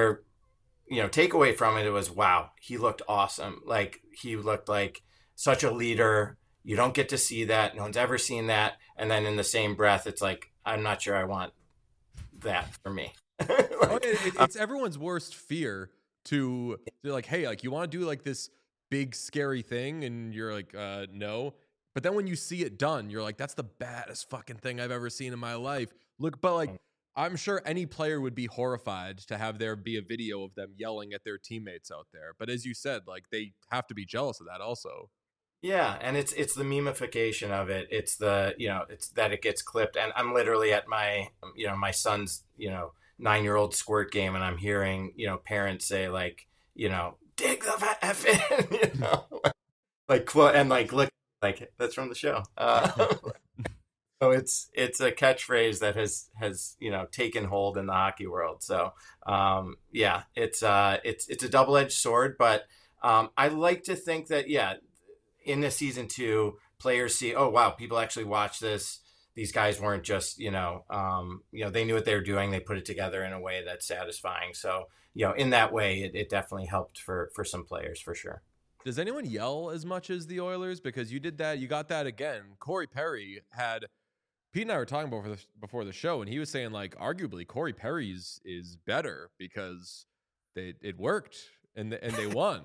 takeaway from it was, wow, he looked awesome. Like, he looked like such a leader. You don't get to see that. No one's ever seen that. And then in the same breath, it's like, I'm not sure I want that for me. It's everyone's worst fear to like, hey, like, you want to do like this big scary thing, and you're like, no. But then when you see it done, you're like, that's the baddest fucking thing I've ever seen in my life. Look, but like, I'm sure any player would be horrified to have there be a video of them yelling at their teammates out there. But as you said, like, they have to be jealous of that also. Yeah, and it's the memification of it. It's it's that it gets clipped. And I'm literally at my my son's 9-year-old squirt game, and I'm hearing parents say, like, dig the F in, look, like that's from the show. So it's a catchphrase that has taken hold in the hockey world. So yeah, it's a double-edged sword, but I like to think that in the season 2, players see, oh wow, people actually watch this. These guys weren't just they knew what they were doing. They put it together in a way that's satisfying. So in that way, it definitely helped for some players for sure. Does anyone yell as much as the Oilers? Because you did that. You got that again. Corey Perry had. Pete and I were talking before the show, and he was saying, like, arguably Corey Perry's is better because it worked and they won.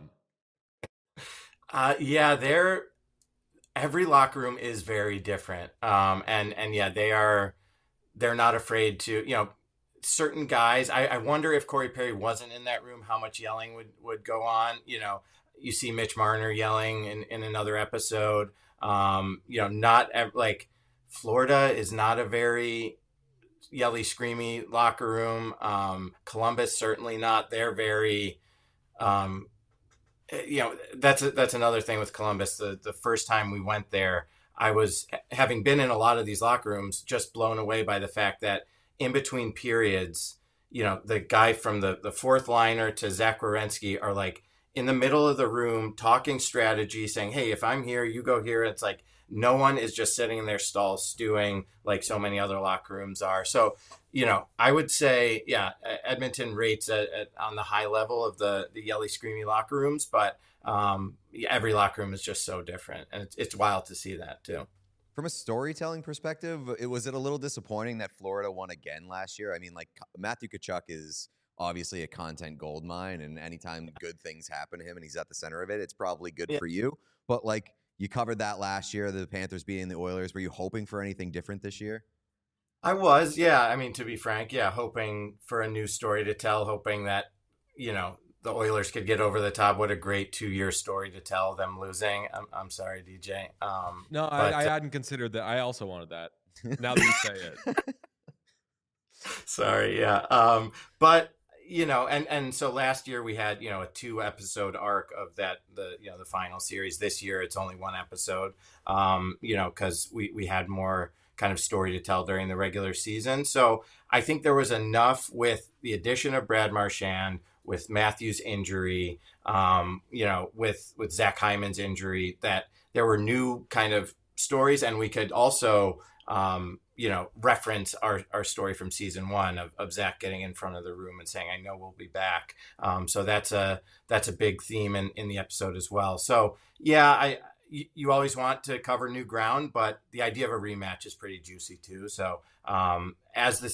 Every locker room is very different. And yeah, they're not afraid to, certain guys. I wonder if Corey Perry wasn't in that room, how much yelling would go on. You see Mitch Marner yelling in another episode. Like Florida is not a very yelly, screamy locker room. Columbus certainly not. They're very, that's another thing with Columbus. The first time we went there, I was, having been in a lot of these locker rooms, just blown away by the fact that in between periods, the guy from the fourth liner to Zach Werenski are like in the middle of the room talking strategy, saying, hey, if I'm here, you go here. It's like no one is just sitting in their stalls stewing like so many other locker rooms are. So, I would say, Edmonton rates on the high level of the yelly, screamy locker rooms, but every locker room is just so different. And it's wild to see that too. From a storytelling perspective, was it a little disappointing that Florida won again last year? I mean, like, Matthew Tkachuk is obviously a content goldmine, and anytime good things happen to him and he's at the center of it, it's probably good for you. But like, you covered that last year, the Panthers beating the Oilers. Were you hoping for anything different this year? I was, yeah. I mean, to be frank, hoping for a new story to tell, hoping that, the Oilers could get over the top. What a great 2-year story to tell, them losing. I'm sorry, DJ. No, I hadn't considered that. I also wanted that. Now that you say it. Sorry, yeah. But, and so last year we had, a 2-episode arc of that, the final series. This year it's only 1 episode, because we had more kind of story to tell during the regular season. So I think there was enough with the addition of Brad Marchand, with Matthews' injury, with Zach Hyman's injury, that there were new kind of stories, and we could also, reference our story from season 1 of Zach getting in front of the room and saying, I know we'll be back. So that's a big theme in the episode as well. So yeah, you always want to cover new ground, but the idea of a rematch is pretty juicy too. So as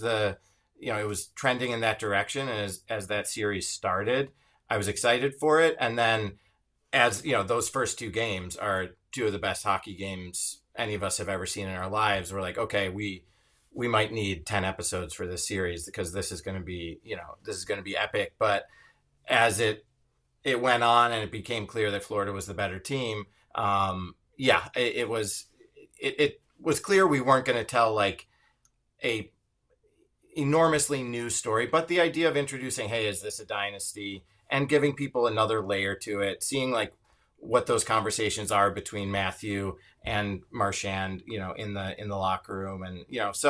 it was trending in that direction, and as that series started, I was excited for it. And then as those first 2 games are 2 of the best hockey games any of us have ever seen in our lives. We're like, okay, we might need 10 episodes for this series because this is going to be, epic. But as it went on and it became clear that Florida was the better team, it was clear we weren't going to tell like a enormously new story, but the idea of introducing, hey, is this a dynasty, and giving people another layer to it, seeing like what those conversations are between Matthew and Marchand, in the locker room, and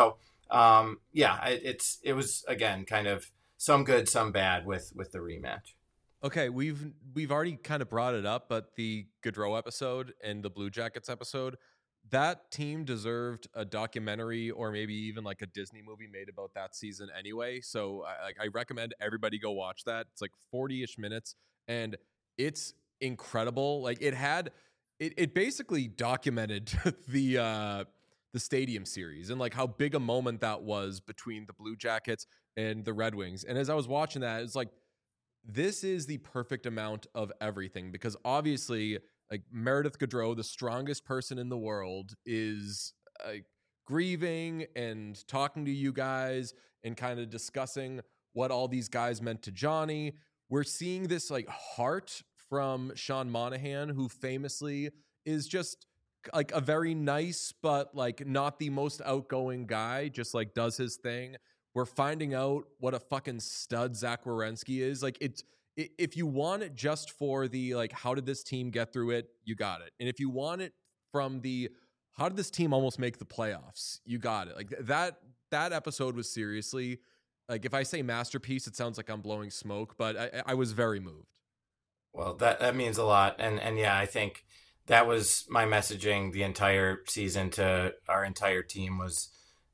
it was again kind of some good, some bad with the rematch. Okay, we've already kind of brought it up, but the Gaudreau episode and the Blue Jackets episode, that team deserved a documentary or maybe even like a Disney movie made about that season anyway. So I recommend everybody go watch that. It's like 40-ish minutes and it's incredible. Like it basically documented the Stadium Series and like how big a moment that was between the Blue Jackets and the Red Wings. And as I was watching that, it's like, this is the perfect amount of everything, because obviously like Meredith Gaudreau, the strongest person in the world, is grieving and talking to you guys and kind of discussing what all these guys meant to Johnny. We're seeing this like heart from Sean Monahan, who famously is just like a very nice, but like not the most outgoing guy, just like does his thing. We're finding out what a fucking stud Zach Werenski is. Like if you want it just for the like, how did this team get through it, you got it. And if you want it from the how did this team almost make the playoffs, you got it. Like that episode was seriously, like, if I say masterpiece, it sounds like I'm blowing smoke, but I was very moved. Well, that means a lot. And yeah, I think that was my messaging the entire season to our entire team was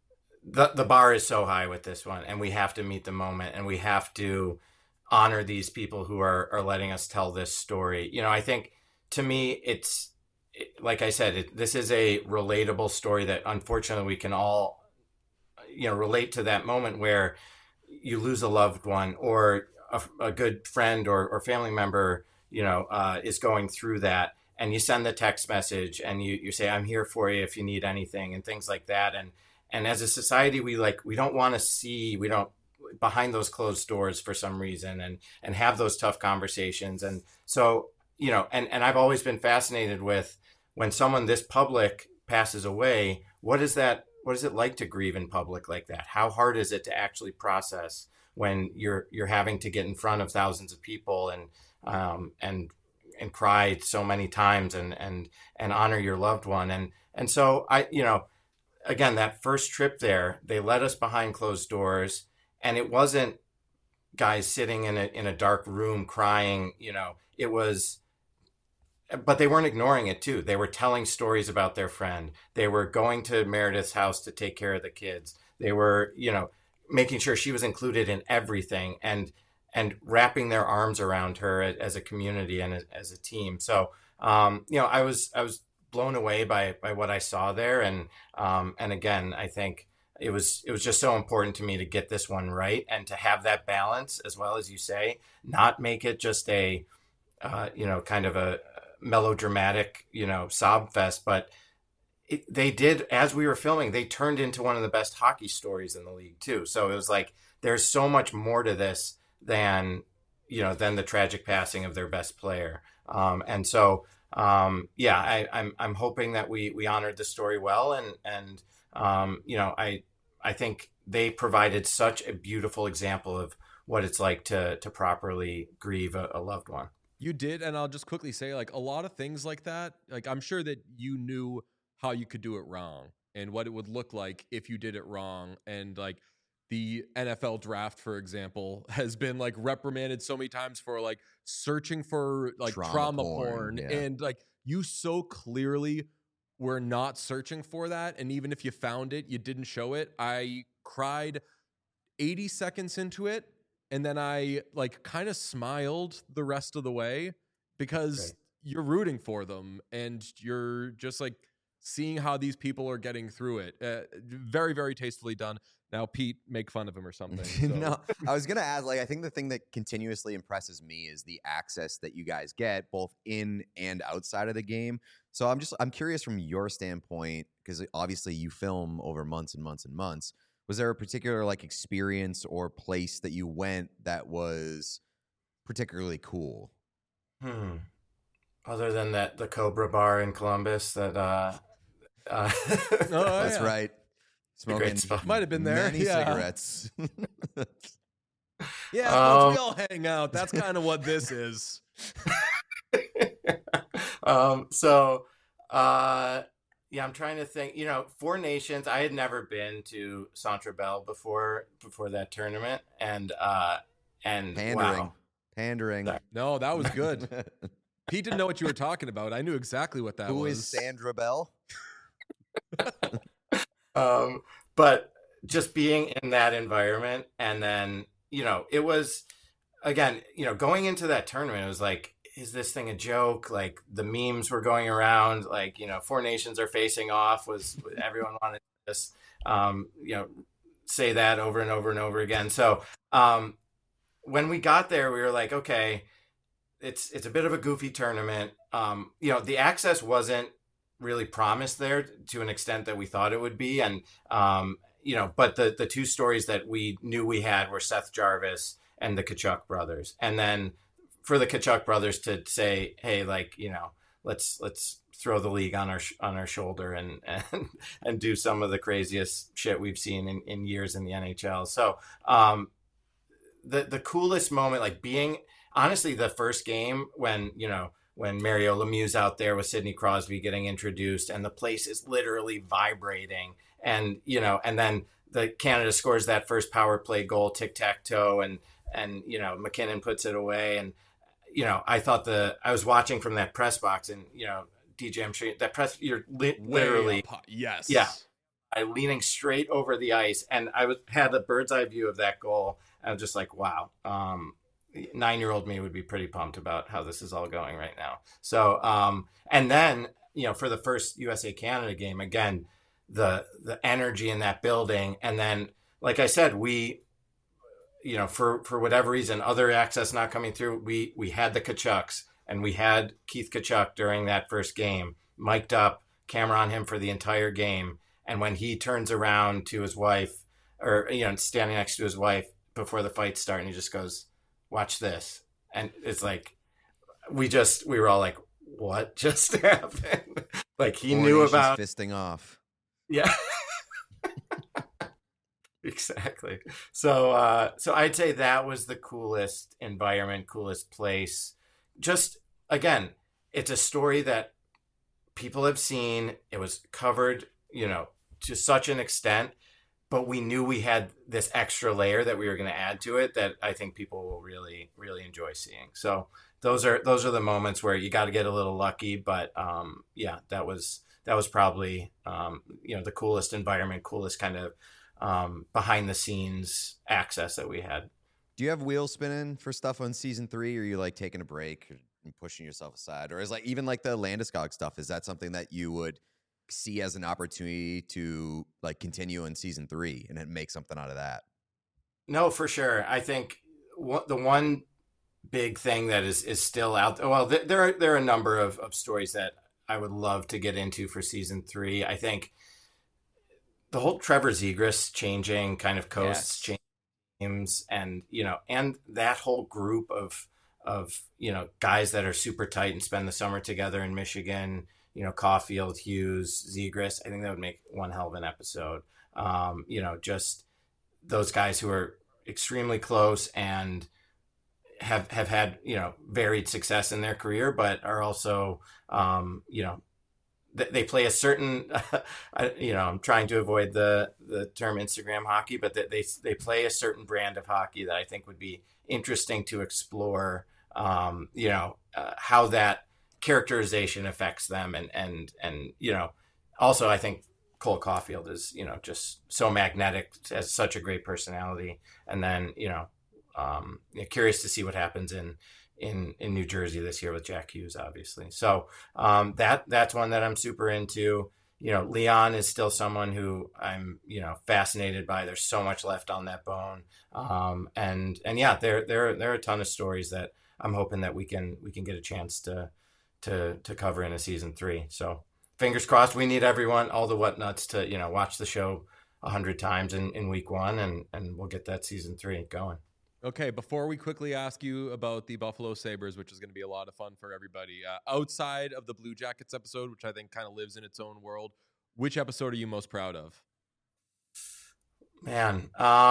the bar is so high with this one, and we have to meet the moment, and we have to honor these people who are letting us tell this story. You know, I think to me, like I said, this is a relatable story that unfortunately we can all, relate to that moment where you lose a loved one or a good friend or family member, is going through that. And you send the text message and you say, I'm here for you if you need anything and things like that. And as a society, we don't want to see, behind those closed doors for some reason and have those tough conversations. And so, and I've always been fascinated with when someone this public passes away, what is it like to grieve in public like that? How hard is it to actually process when you're having to get in front of thousands of people and cry so many times and honor your loved one. And so again, that first trip there, they led us behind closed doors, and it wasn't guys sitting in a dark room crying, it was, but they weren't ignoring it too. They were telling stories about their friend. They were going to Meredith's house to take care of the kids. They were, making sure she was included in everything and wrapping their arms around her as a community and as a team. So, I was blown away by what I saw there. And again, I think it was just so important to me to get this one right and to have that balance, as well as you say, not make it just a, kind of a melodramatic, sob fest, but they did, as we were filming, they turned into one of the best hockey stories in the league too. So it was like, there's so much more to this than the tragic passing of their best player. And so, I'm hoping that we honored the story well. And I think they provided such a beautiful example of what it's like to properly grieve a loved one. You did. And I'll just quickly say, like, a lot of things like that, like, I'm sure that you knew how you could do it wrong and what it would look like if you did it wrong. And like the NFL draft, for example, has been like reprimanded so many times for like searching for like trauma porn. Yeah. And like you so clearly were not searching for that. And even if you found it, you didn't show it. I cried 80 seconds into it. And then I like kind of smiled the rest of the way because you're rooting for them and you're just like seeing how these people are getting through it. Very, very tastefully done. Now, Pete, make fun of him or something. So. No, I was going to add, like, I think the thing that continuously impresses me is the access that you guys get both in and outside of the game. So I'm curious from your standpoint, because obviously you film over months and months and months. Was there a particular like experience or place that you went that was particularly cool? Other than the Cobra Bar in Columbus that that's right. Smoking might have been there. Many cigarettes. Yeah, we all hang out. That's kind of what this is. I'm trying to think. Four Nations. I had never been to Centre Bell before that tournament, and pandering. Wow. Pandering. No, that was good. Pete didn't know what you were talking about. I knew exactly what that was. Who is Sandra Bell? But just being in that environment, and then, it was, again, going into that tournament, it was like, is this thing a joke? Like the memes were going around, like, Four Nations are facing off was everyone wanted to just, say that over and over and over again. So, when we got there, we were like, okay, it's a bit of a goofy tournament. The access wasn't really promised there to an extent that we thought it would be. And, but the two stories that we knew we had were Seth Jarvis and the Tkachuk brothers. And then for the Tkachuk brothers to say, hey, like, let's throw the league on our shoulder and do some of the craziest shit we've seen in years in the NHL. So, the coolest moment, like being honestly, the first game when Mario Lemieux's out there with Sidney Crosby getting introduced, and the place is literally vibrating, and and then the Canada scores that first power play goal, tic tac toe, and McKinnon puts it away, and I thought I was watching from that press box, and DJ, I'm sure that press, you're literally yes, yeah, I leaning straight over the ice, and had a bird's eye view of that goal, and I was just like, wow. 9-year-old me would be pretty pumped about how this is all going right now. So, and then, for the first USA Canada game, again, the energy in that building. And then, like I said, we, for whatever reason, other access not coming through, we had the Tkachuks, and we had Keith Tkachuk during that first game, mic'd up, camera on him for the entire game. And when he turns around to his wife, or, standing next to his wife before the fight started, and he just goes, "Watch this." And it's like, we were all like, what just happened? Like, he knew about fisting off. Yeah. Exactly. So I'd say that was the coolest environment, coolest place. Just, again, it's a story that people have seen. It was covered, to such an extent, but we knew we had this extra layer that we were going to add to it that I think people will really, really enjoy seeing. So those are the moments where you got to get a little lucky, but that was probably the coolest environment, coolest kind of behind the scenes access that we had. Do you have wheels spinning for stuff on season 3, or are you like taking a break and pushing yourself aside, or is like even like the Landeskog stuff? Is that something that you would see as an opportunity to like continue in season 3 and then make something out of that? No, for sure. I think the one big thing that is still out there, well, there are a number of stories that I would love to get into for season 3. I think the whole Trevor Zegras changing kind of coasts, changing teams, and and that whole group of guys that are super tight and spend the summer together in Michigan, Caulfield, Hughes, Zegras. I think that would make one hell of an episode. Just those guys who are extremely close and have had, varied success in their career, but are also, they play a certain, I'm trying to avoid the term Instagram hockey, but they play a certain brand of hockey that I think would be interesting to explore, how that characterization affects them. And also I think Cole Caulfield is, just so magnetic, has such a great personality. And then, curious to see what happens in New Jersey this year with Jack Hughes, obviously. So that's one that I'm super into. Leon is still someone who I'm, fascinated by. There's so much left on that bone. And yeah, there are a ton of stories that I'm hoping that we can get a chance to cover in a season 3. So fingers crossed. We need everyone, all the whatnots, to watch the show 100 times in week 1, and we'll get that season 3 going. Okay, before we quickly ask you about the Buffalo Sabres, which is going to be a lot of fun for everybody, outside of the Blue Jackets episode, which I think kind of lives in its own world, which episode are you most proud of? Man,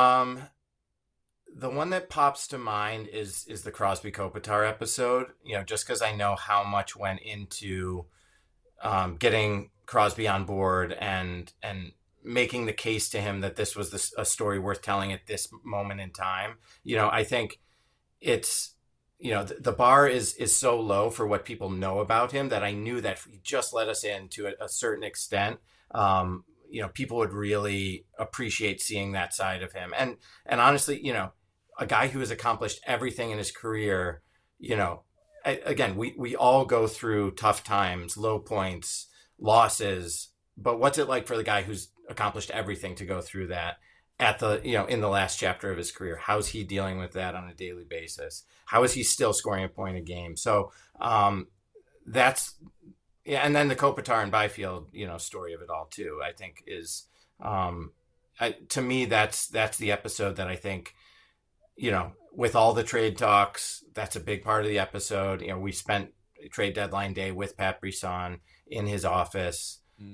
the one that pops to mind is the Crosby Kopitar episode, just because I know how much went into getting Crosby on board and making the case to him that this was a story worth telling at this moment in time. I think it's, the bar is so low for what people know about him that I knew that if he just let us in to a certain extent, people would really appreciate seeing that side of him. And honestly, a guy who has accomplished everything in his career, again, we all go through tough times, low points, losses, but what's it like for the guy who's accomplished everything to go through that at the, in the last chapter of his career? How's he dealing with that on a daily basis? How is he still scoring a point a game? So that's, yeah. And then the Kopitar and Byfield, story of it all too, I think is, to me, that's the episode that I think, with all the trade talks, that's a big part of the episode. We spent trade deadline day with Pat Brisson in his office,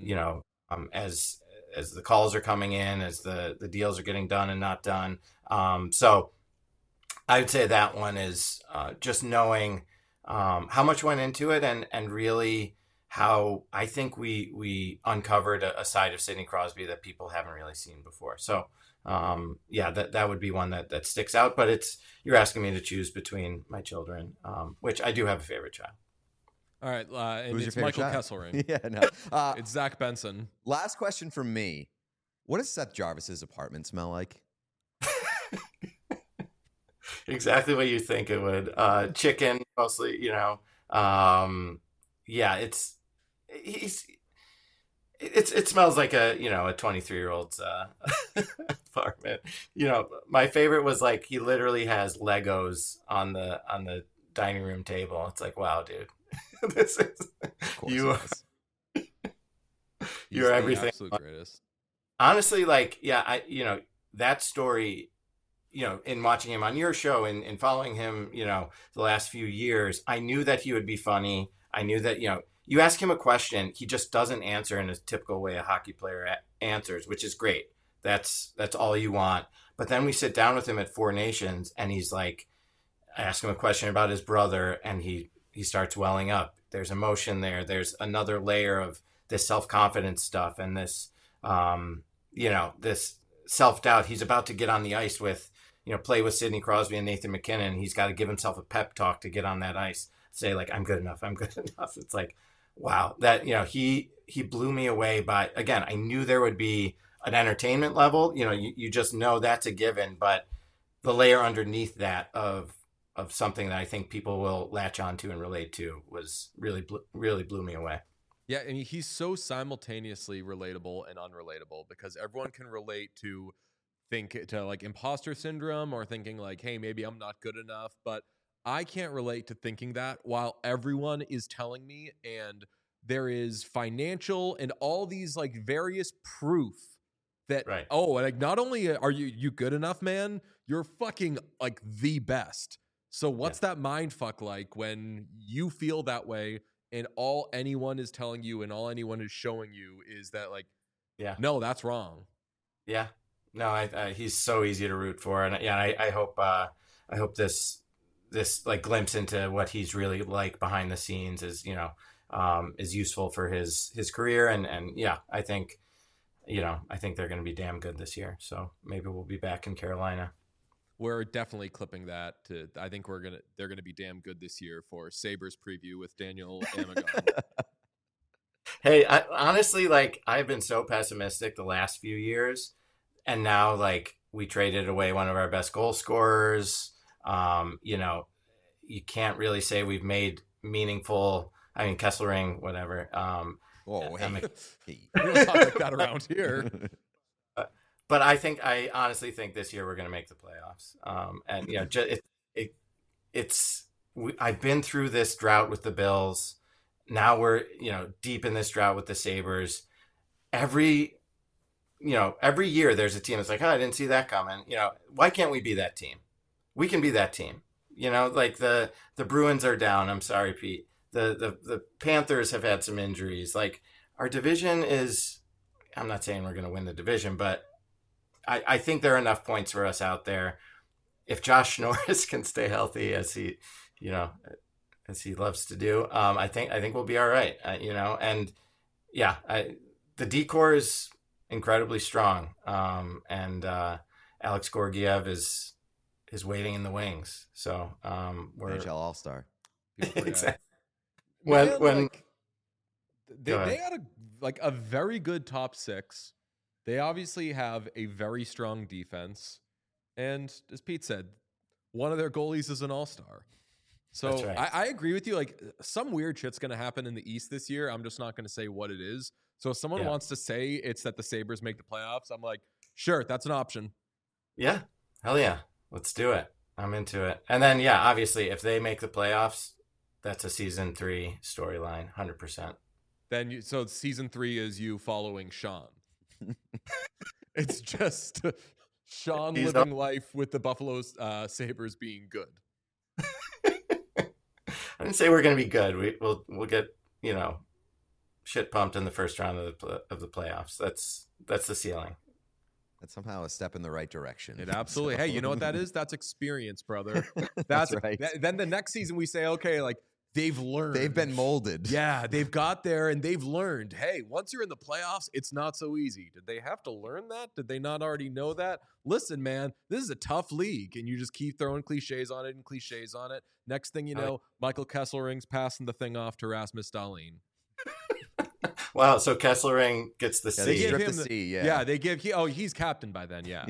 as the calls are coming in, as the deals are getting done and not done. So I would say that one is just knowing how much went into it, and really how I think we uncovered a side of Sidney Crosby that people haven't really seen before. So yeah, that would be one that sticks out. But you're asking me to choose between my children, which I do have a favorite child. All right, and Who's your it's favorite Michael child? Kesselring. Yeah, no. It's Zach Benson. Last question from me. What does Seth Jarvis's apartment smell like? Exactly what you think it would. Chicken, mostly, yeah, it smells like a 23-year-old's apartment. My favorite was like he literally has Legos on the dining room table. It's like, wow, dude, this is Of course you. it is. He's You're the everything. absolute greatest. Honestly, like, yeah, that story, in watching him on your show and following him, the last few years, I knew that he would be funny. I knew that, you ask him a question, he just doesn't answer in a typical way a hockey player answers, which is great. That's all you want. But then we sit down with him at Four Nations, and he's like, I ask him a question about his brother, and he starts welling up. There's emotion there. There's another layer of this self-confidence stuff and this, this self-doubt. He's about to get on the ice with, play with Sidney Crosby and Nathan McKinnon. He's got to give himself a pep talk to get on that ice. Say like, I'm good enough. I'm good enough. It's like, wow, that, he blew me away by, again, I knew there would be an entertainment level, you just know that's a given, but the layer underneath that of something that I think people will latch onto and relate to was really blew me away. Yeah, I mean, he's so simultaneously relatable and unrelatable because everyone can relate to like imposter syndrome or thinking like, hey, maybe I'm not good enough. But I can't relate to thinking that while everyone is telling me, and there is financial and all these like various proof that, Right. Oh, like not only are you good enough, man, you're fucking like the best. So what's that mind fuck like when you feel that way? And all anyone is telling you and all anyone is showing you is that like, Yeah, no, that's wrong. yeah, no, he's so easy to root for, and yeah, I hope this like glimpse into what he's really like behind the scenes is useful for his career, and yeah, I think they're going to be damn good this year. So maybe we'll be back in Carolina. We're definitely clipping that. I think they're gonna be damn good this year for Sabres preview with Daniel Amagon. Hey, honestly, like I've been so pessimistic the last few years, and now like we traded away one of our best goal scorers. You can't really say we've made meaningful. I mean, Kesselring, whatever. Whoa, hey. We don't talk like that around here. But I honestly think this year we're going to make the playoffs. And I've been through this drought with the Bills. Now we're deep in this drought with the Sabres. Every year there's a team that's like, oh, I didn't see that coming. Why can't we be that team? We can be that team. Like the Bruins are down. I'm sorry, Pete. The Panthers have had some injuries. Like our division is. I'm not saying we're going to win the division, but I think there are enough points for us out there. If Josh Norris can stay healthy as he loves to do, I think we'll be all right. And yeah, the D-core is incredibly strong. And Alex Gorgiev is waiting in the wings. So we're NHL All-Star. exactly. Man, When like, they had a very good top six. They obviously have a very strong defense. And as Pete said, one of their goalies is an all-star. So That's right. I agree with you. Like some weird shit's going to happen in the East this year. I'm just not going to say what it is. So if someone wants to say it's that the Sabres make the playoffs, I'm like, sure, that's an option. Yeah. Hell yeah. Let's do it. I'm into it. And then, yeah, obviously, if they make the playoffs, that's a season 3 storyline, 100%. Then so season 3 is you following Sean. It's just Sean living life with the Buffalo Sabres being good. I didn't say we're going to be good. We'll get shit pumped in the first round of the playoffs. That's the ceiling. That's somehow a step in the right direction. It absolutely. So- Hey, you know what that is? That's experience, brother. That's right. Then the next season we say, okay, like they've learned. They've been molded. Yeah, they've got there and they've learned. Hey, once you're in the playoffs, it's not so easy. Did they have to learn that? Did they not already know that? Listen, man, this is a tough league, and you just keep throwing cliches on it and cliches on it. Next thing you know, Michael Kesselring's passing the thing off to Rasmus Dahlin. Wow, so Kesselring gets the Yeah, C. they give strip him the the- C, Yeah, they give he's captain by then. Yeah.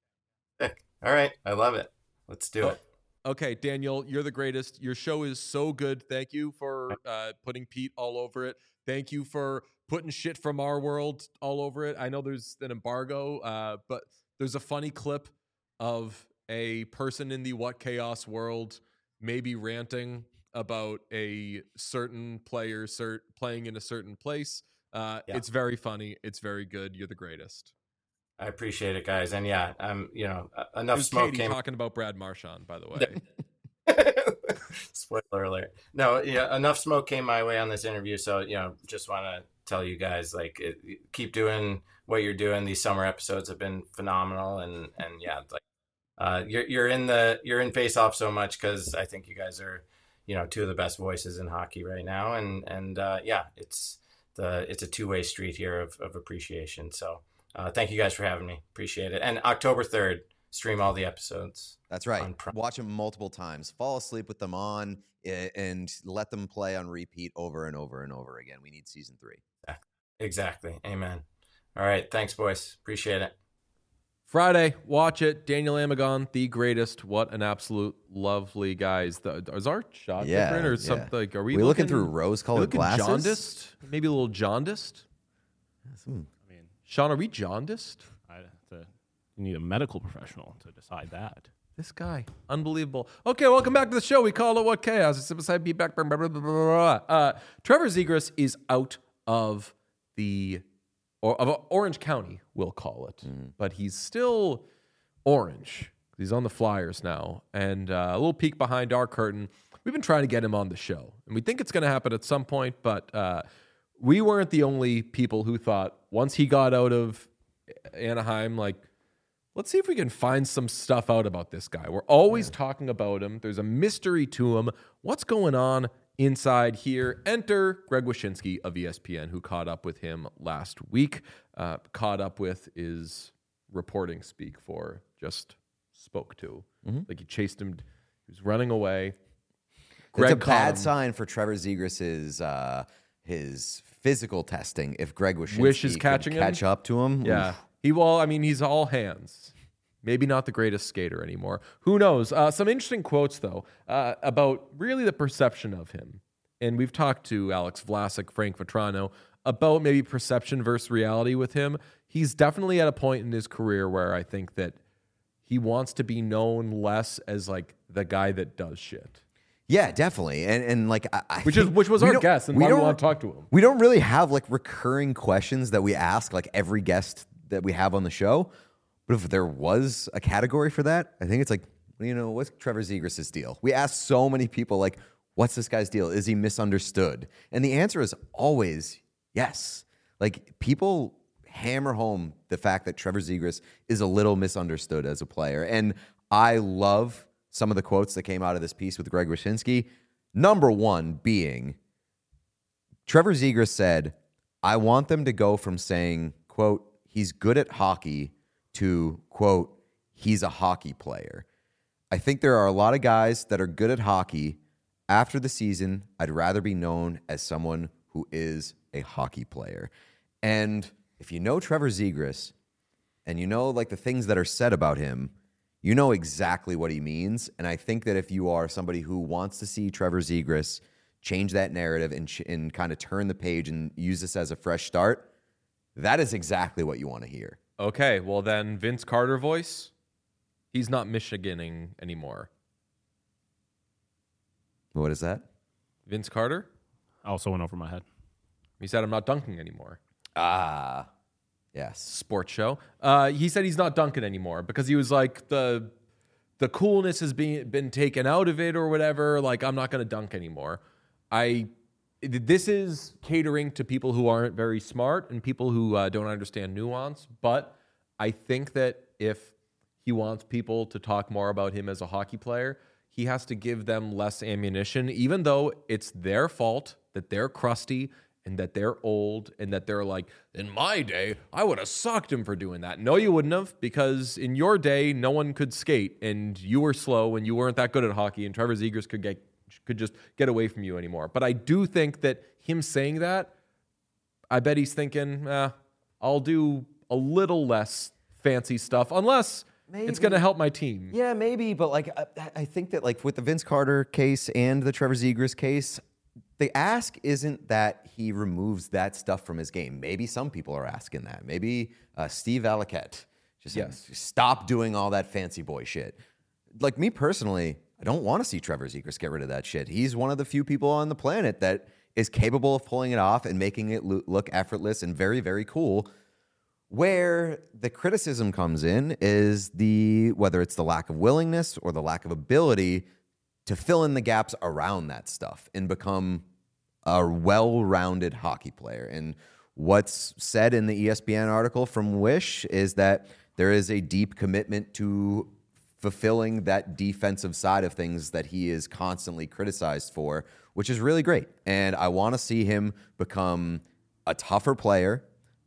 All right, I love it. Let's do it. Okay, Daniel, you're the greatest. Your show is so good. Thank you for putting Pete all over it. Thank you for putting shit from our world all over it. I know there's an embargo, but there's a funny clip of a person in the What Chaos world maybe ranting about a certain player playing in a certain place. It's very funny. It's very good. You're the greatest. I appreciate it, guys. And yeah, enough It was smoke Katie came. talking about Brad Marchand, by the way. Spoiler alert. No, yeah, enough smoke came my way on this interview. So, just want to tell you guys, keep doing what you're doing. These summer episodes have been phenomenal. And yeah, you're in Face Off so much because I think you guys are, two of the best voices in hockey right now. And yeah, it's a two-way street here of appreciation. So thank you guys for having me. Appreciate it. And October 3rd, stream all the episodes. That's right. Watch them multiple times. Fall asleep with them on and let them play on repeat over and over and over again. We need season 3. Exactly. Amen. All right. Thanks, boys. Appreciate it. Friday, watch it. Daniel Amagon, the greatest. What an absolute lovely guys. Is our shot different or something? Like, are we looking through rose-colored glasses? Jaundiced? Maybe a little jaundiced? I mean, Sean, are we jaundiced? you need a medical professional to decide that. This guy, unbelievable. Okay, welcome back to the show. We call it What Chaos. It's beside be back. Trevor Zegras is out of Orange County, we'll call it, but he's still orange. He's on the Flyers now, and a little peek behind our curtain. We've been trying to get him on the show, and we think it's going to happen at some point. But we weren't the only people who thought once he got out of Anaheim, let's see if we can find some stuff out about this guy. We're always talking about him. There's a mystery to him. What's going on inside here? Enter Greg Wyshynski of ESPN, who caught up with him last week. Caught up with is reporting speak for just spoke to. Like he chased him. He was running away. It's a bad sign for Trevor Zegras' his physical testing if Greg Wish is catching him? catch up to him. Yeah. Oof. He's all hands. Maybe not the greatest skater anymore. Who knows? Some interesting quotes, though, about really the perception of him. And we've talked to Alex Vlasic, Frank Vetrano, about maybe perception versus reality with him. He's definitely at a point in his career where I think that he wants to be known less as the guy that does shit. Yeah, definitely. And I Which think was we our don't- guess, and we why we don't- want to talk to him. We don't really have recurring questions that we ask every guest that we have on the show. But if there was a category for that, I think it's what's Trevor Zegras' deal? We ask so many people what's this guy's deal? Is he misunderstood? And the answer is always yes. People hammer home the fact that Trevor Zegras is a little misunderstood as a player. And I love some of the quotes that came out of this piece with Greg Wyshynski. Number one being, Trevor Zegras said, I want them to go from saying, quote, he's good at hockey to, quote, he's a hockey player. I think there are a lot of guys that are good at hockey. After the season, I'd rather be known as someone who is a hockey player. And if you know Trevor Zegras and you know the things that are said about him, you know exactly what he means. And I think that if you are somebody who wants to see Trevor Zegras change that narrative and kind of turn the page and use this as a fresh start, that is exactly what you want to hear. Okay, well then Vince Carter voice, he's not Michiganing anymore. What is that? Vince Carter? Also went over my head. He said, I'm not dunking anymore. Yes. Sports show. He said he's not dunking anymore because he was the coolness has been taken out of it or whatever. I'm not going to dunk anymore. This is catering to people who aren't very smart and people who don't understand nuance. But I think that if he wants people to talk more about him as a hockey player, he has to give them less ammunition, even though it's their fault that they're crusty and that they're old and that they're like, in my day, I would have socked him for doing that. No, you wouldn't have, because in your day, no one could skate and you were slow and you weren't that good at hockey, and Trevor Zegras could just get away from you anymore. But I do think that him saying that, I bet he's thinking, I'll do a little less fancy stuff unless it's going to help my team. Yeah, maybe. But like, I think that like with the Vince Carter case and the Trevor Zegras case, the ask isn't that he removes that stuff from his game. Maybe some people are asking that. Maybe Steve Alaquette just stop doing all that fancy boy shit. Like me personally, I don't want to see Trevor Zegras get rid of that shit. He's one of the few people on the planet that is capable of pulling it off and making it look effortless and very, very cool. Where the criticism comes in is whether it's the lack of willingness or the lack of ability to fill in the gaps around that stuff and become a well-rounded hockey player. And what's said in the ESPN article from Wish is that there is a deep commitment to fulfilling that defensive side of things that he is constantly criticized for, which is really great. And I want to see him become a tougher player,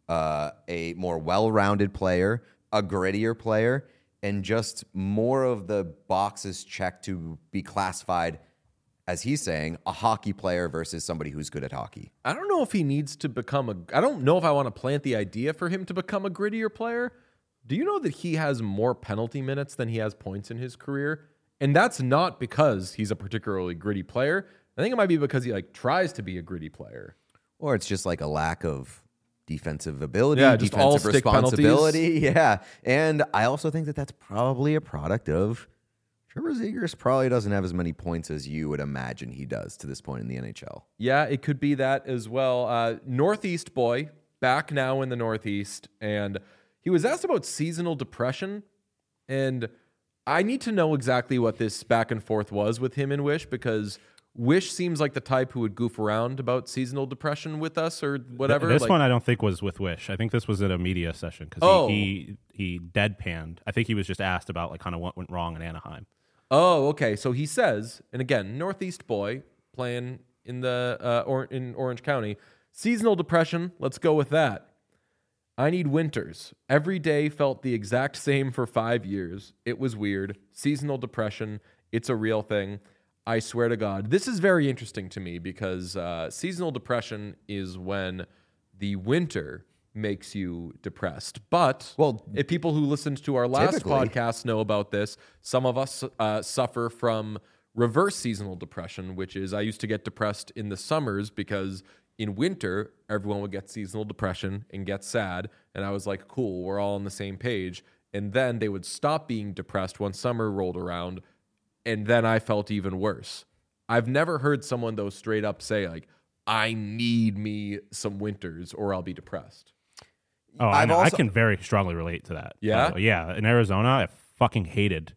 a more well-rounded player, a grittier player, and just more of the boxes checked to be classified, as he's saying, a hockey player versus somebody who's good at hockey. I don't know if he needs to become I don't know if I want to plant the idea for him to become a grittier player. Do you know that he has more penalty minutes than he has points in his career? And that's not because he's a particularly gritty player. I think it might be because he tries to be a gritty player. Or it's just like a lack of defensive ability, just all defensive stick responsibility. penalties. Yeah. And I also think that that's probably a product of Trevor Zegras probably doesn't have as many points as you would imagine he does to this point in the NHL. Yeah, it could be that as well. Northeast boy, back now in the Northeast, and he was asked about seasonal depression, and I need to know exactly what this back and forth was with him and Wish, because Wish seems like the type who would goof around about seasonal depression with us or whatever. This one I don't think was with Wish. I think this was at a media session because he deadpanned. I think he was just asked about kind of what went wrong in Anaheim. Oh, okay. So he says, and again, Northeast boy playing in in Orange County, seasonal depression. Let's go with that. I need winters. Every day felt the exact same for 5 years. It was weird. Seasonal depression. It's a real thing. I swear to God. This is very interesting to me because seasonal depression is when the winter makes you depressed. But if people who listened to our last podcast know about this, some of us suffer from reverse seasonal depression, which is I used to get depressed in the summers because in winter, everyone would get seasonal depression and get sad. And I was like, cool, we're all on the same page. And then they would stop being depressed when summer rolled around. And then I felt even worse. I've never heard someone, though, straight up say, I need me some winters or I'll be depressed. Oh, I can very strongly relate to that. Yeah? Yeah. In Arizona, I fucking hated.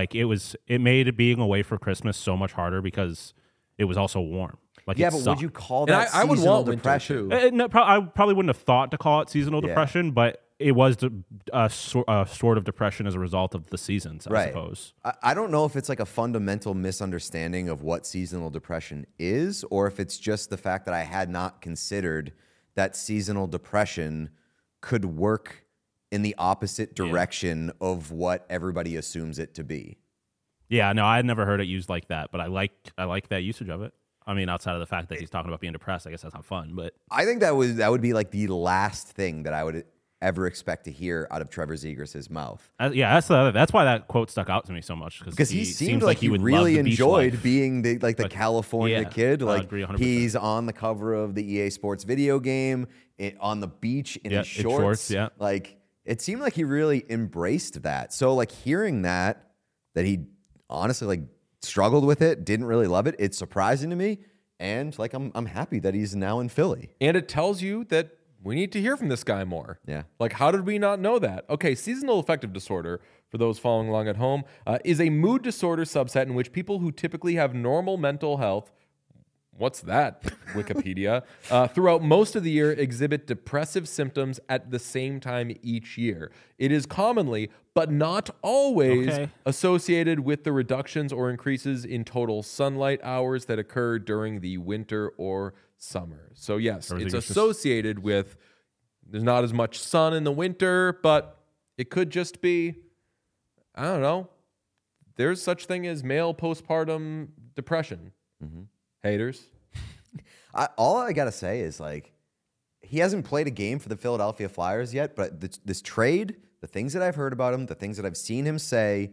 It made being away for Christmas so much harder because it was also warm. But would you call that I would seasonal want depression? winter, too. No, I probably wouldn't have thought to call it seasonal depression, but it was a sort of depression as a result of the seasons, I suppose. I don't know if it's a fundamental misunderstanding of what seasonal depression is, or if it's just the fact that I had not considered that seasonal depression could work in the opposite direction of what everybody assumes it to be. Yeah, no, I had never heard it used like that, but I like that usage of it. I mean, outside of the fact that he's talking about being depressed, I guess that's not fun. But I think that would be the last thing that I would ever expect to hear out of Trevor Zegras' mouth. That's why that quote stuck out to me so much because he seemed like he would really love the enjoyed being the California kid. I agree 100%. He's on the cover of the EA Sports video game on the beach in his shorts. It seemed like he really embraced that. So hearing that he honestly struggled with it, didn't really love it. It's surprising to me, and I'm happy that he's now in Philly. And it tells you that we need to hear from this guy more. Yeah. How did we not know that? Okay, seasonal affective disorder, for those following along at home, is a mood disorder subset in which people who typically have normal mental health what's that, Wikipedia, throughout most of the year exhibit depressive symptoms at the same time each year. It is commonly, but not always, associated with the reductions or increases in total sunlight hours that occur during the winter or summer. So yes, it's associated with there's not as much sun in the winter, but it could just be, I don't know, there's such thing as male postpartum depression. Haters. All I got to say is, like, he hasn't played a game for the Philadelphia Flyers yet, but this trade, the things that I've heard about him, the things that I've seen him say,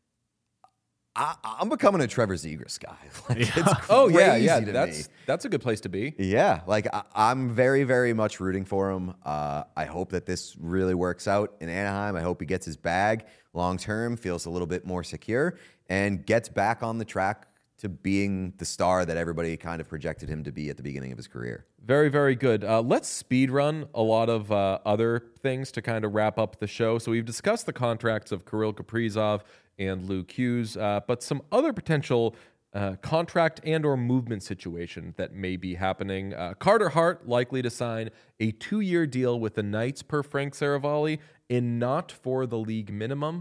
I'm becoming a Trevor Zegras guy. Like, it's that's a good place to be. Yeah, like I'm very, very much rooting for him. I hope that this really works out in Anaheim. I hope he gets his bag long term, feels a little bit more secure, and gets back on the track to being the star that everybody kind of projected him to be at the beginning of his career. Very, very good. Let's speed run a lot of other things to kind of wrap up the show. So we've discussed the contracts of Kirill Kaprizov and Luke Hughes, but some other potential contract and or movement situation that may be happening. Carter Hart likely to sign a 2-year deal with the Knights per Frank Saravalli and not for the league minimum.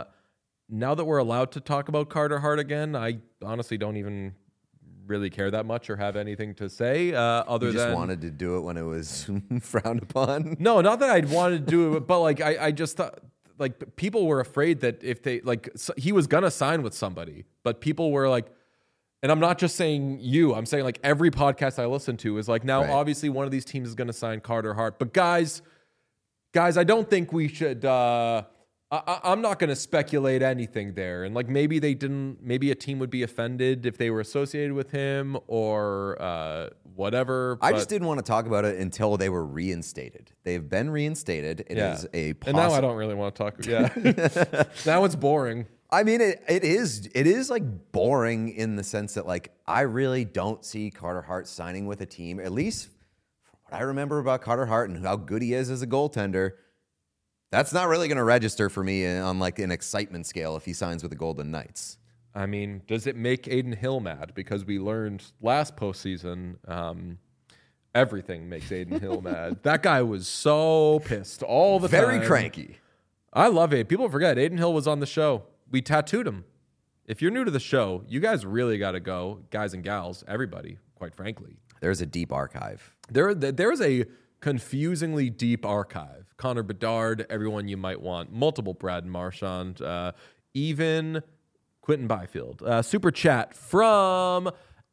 Now that we're allowed to talk about Carter Hart again, I honestly don't even really care that much or have anything to say other than... You just wanted to do it when it was frowned upon? No, not that I'd wanted to do it, but like I just thought... Like, people were afraid that if they, like, he was going to sign with somebody, but people were like, and I'm not just saying you, I'm saying like every podcast I listen to is like, now obviously one of these teams is going to sign Carter Hart, but guys, I don't think we should, I'm not going to speculate anything there. And like, maybe a team would be offended if they were associated with him or whatever. I just didn't want to talk about it until they were reinstated. They've been reinstated. It is a and now I don't really want to talk. Yeah. Now it's boring. I mean, it is like boring in the sense that, like, I really don't see Carter Hart signing with a team, at least from what I remember about Carter Hart and how good he is as a goaltender. That's not really going to register for me on like an excitement scale if he signs with the Golden Knights. I mean, does it make Adin Hill mad? Because we learned last postseason, everything makes Adin Hill mad. That guy was so pissed all the time. Very cranky. I love it. People forget Adin Hill was on the show. We tattooed him. If you're new to the show, you guys really got to go, guys and gals, everybody, quite frankly. There's a deep archive. There's a confusingly deep archive. Connor Bedard, everyone you might want, multiple Brad Marchand, even Quentin Byfield. Super chat from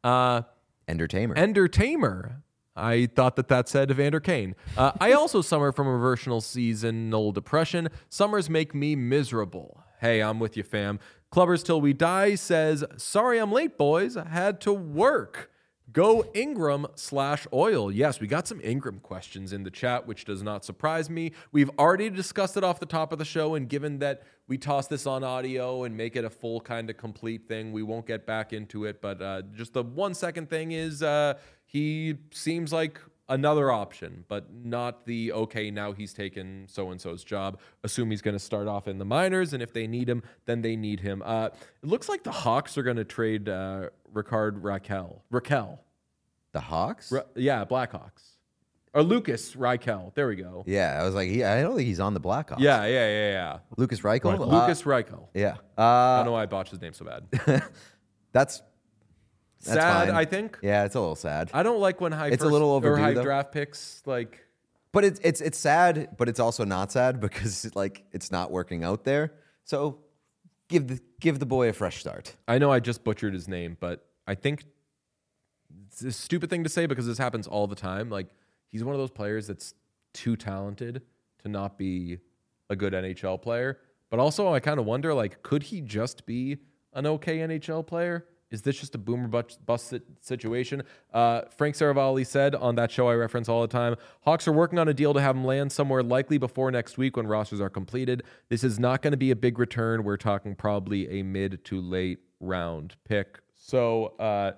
Entertainer. I thought that said Evander Kane. I also suffer from reversional seasonal depression. Summers make me miserable. Hey, I'm with you, fam. Clubbers Till We Die says, sorry I'm late, boys. I had to work. Go Ingram/Oil. Yes, we got some Ingram questions in the chat, which does not surprise me. We've already discussed it off the top of the show, and given that we toss this on audio and make it a full kind of complete thing, we won't get back into it. But just the 1 second thing is he seems like another option, but not the, okay, now he's taken so-and-so's job. Assume he's going to start off in the minors, and if they need him, then they need him. It looks like the Hawks are going to trade Rickard Rakell. The Hawks? Blackhawks. Or Lucas Reichel. There we go. Yeah, I was like, I don't think he's on the Blackhawks. Yeah. Lucas Reichel? Lucas Reichel. Yeah. I don't know why I botched his name so bad. That's sad, fine. I think. Yeah, it's a little sad. I don't like when a little overdue, high though. draft picks like. But it's sad, but it's also not sad because like it's not working out there. So give the boy a fresh start. I know I just butchered his name, but I think it's a stupid thing to say because this happens all the time. Like, he's one of those players that's too talented to not be a good NHL player. But also, I kind of wonder, like, could he just be an okay NHL player? Is this just a boomer bust situation? Frank Saravalli said on that show I reference all the time, Hawks are working on a deal to have him land somewhere likely before next week when rosters are completed. This is not going to be a big return. We're talking probably a mid to late round pick. So,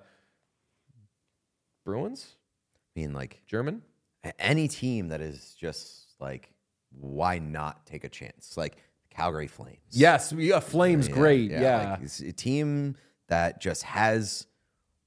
Bruins? I mean, like, German? Any team that is just like, why not take a chance? Like Calgary Flames. Yes, Flames, great. Yeah. Like, it's a team that just has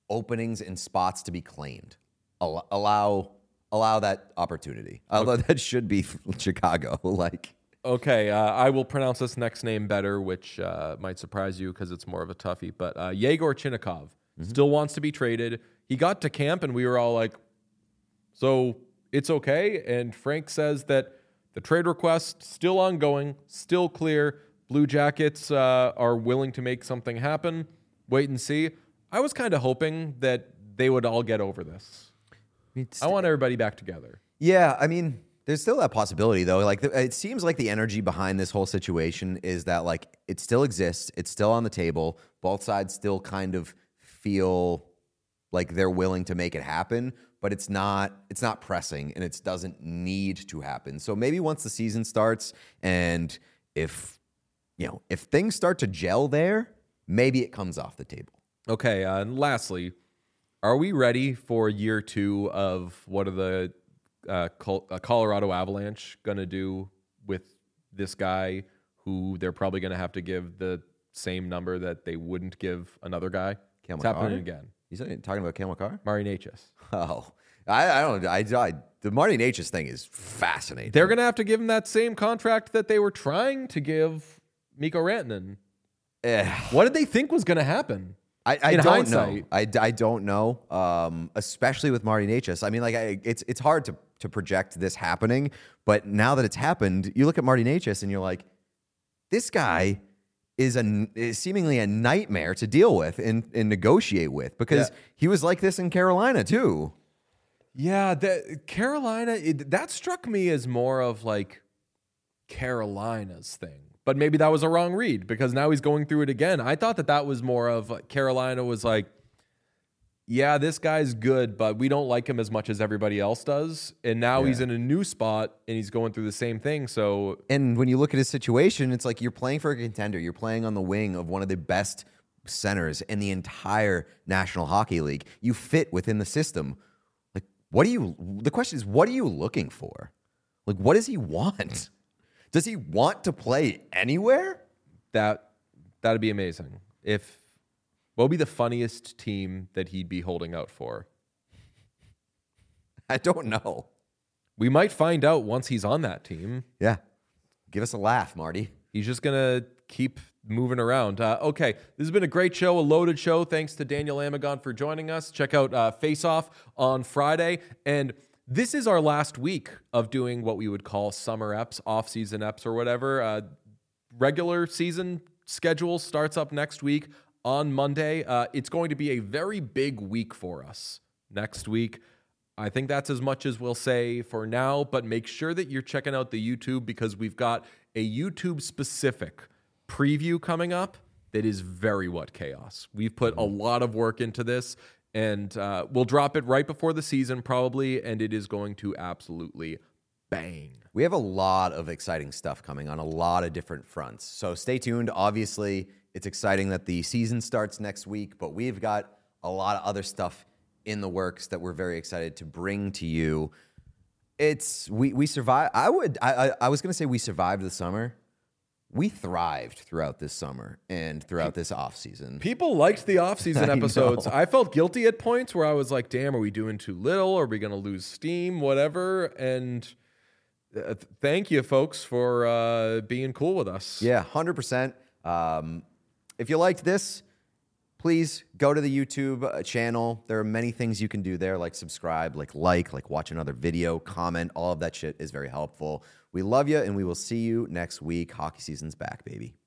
openings and spots to be claimed. Allow that opportunity. Although that should be Chicago. Okay, I will pronounce this next name better, which might surprise you because it's more of a toughie. But Yegor Chinnikov still wants to be traded. He got to camp, and we were all like, so it's okay? And Frank says that the trade request still ongoing, still clear. Blue Jackets are willing to make something happen. Wait and see. I was kind of hoping that they would all get over this. I want everybody back together. Yeah, I mean, there's still that possibility, though. It seems like the energy behind this whole situation is that, it still exists. It's still on the table. Both sides still kind of feel like they're willing to make it happen, but it's not pressing, and it doesn't need to happen. So maybe once the season starts, and if things start to gel there, maybe it comes off the table. Okay, and lastly, are we ready for year 2 of what are the Colorado Avalanche going to do with this guy who they're probably going to have to give the same number that they wouldn't give another guy? Cale It's Makar? happening again. You said talking about Cale Makar? Marty Necas. Oh, I don't. The Marty Necas thing is fascinating. They're going to have to give him that same contract that they were trying to give Mikko Rantanen. What did they think was going to happen? I don't know. I don't know, especially with Marty Necas. I mean, it's hard to project this happening, but now that it's happened, you look at Marty Necas and you're like, this guy is seemingly a nightmare to deal with and negotiate with, because he was like this in Carolina too. Yeah, Carolina, that struck me as more of Carolina's thing. But maybe that was a wrong read, because now he's going through it again. I thought that was more of Carolina was like, yeah, this guy's good, but we don't like him as much as everybody else does. And now he's in a new spot and he's going through the same thing. So, and when you look at his situation, it's like you're playing for a contender. You're playing on the wing of one of the best centers in the entire National Hockey League. You fit within the system. The question is, what are you looking for? What does he want? Does he want to play anywhere? That'd be amazing. What would be the funniest team that he'd be holding out for? I don't know. We might find out once he's on that team. Yeah. Give us a laugh, Marty. He's just going to keep moving around. Okay, this has been a great show, a loaded show. Thanks to Daniel Amagon for joining us. Check out Face Off on Friday. And this is our last week of doing what we would call summer eps, off-season eps or whatever. Regular season schedule starts up next week on Monday. It's going to be a very big week for us next week. I think that's as much as we'll say for now, but make sure that you're checking out the YouTube, because we've got a YouTube-specific preview coming up that is very what chaos. We've put a lot of work into this, and we'll drop it right before the season probably, and it is going to absolutely bang. We have a lot of exciting stuff coming on a lot of different fronts. So stay tuned. Obviously, it's exciting that the season starts next week, but we've got a lot of other stuff in the works that we're very excited to bring to you. We survived. I was going to say we survived the summer. We thrived throughout this summer and throughout this off season. People liked the off-season episodes. know. I felt guilty at points where I was like, damn, are we doing too little? Are we going to lose steam? Whatever. And thank you, folks, for being cool with us. Yeah, 100%. If you liked this, please go to the YouTube channel. There are many things you can do there, like subscribe, like watch another video, comment. All of that shit is very helpful. We love you, and we will see you next week. Hockey season's back, baby.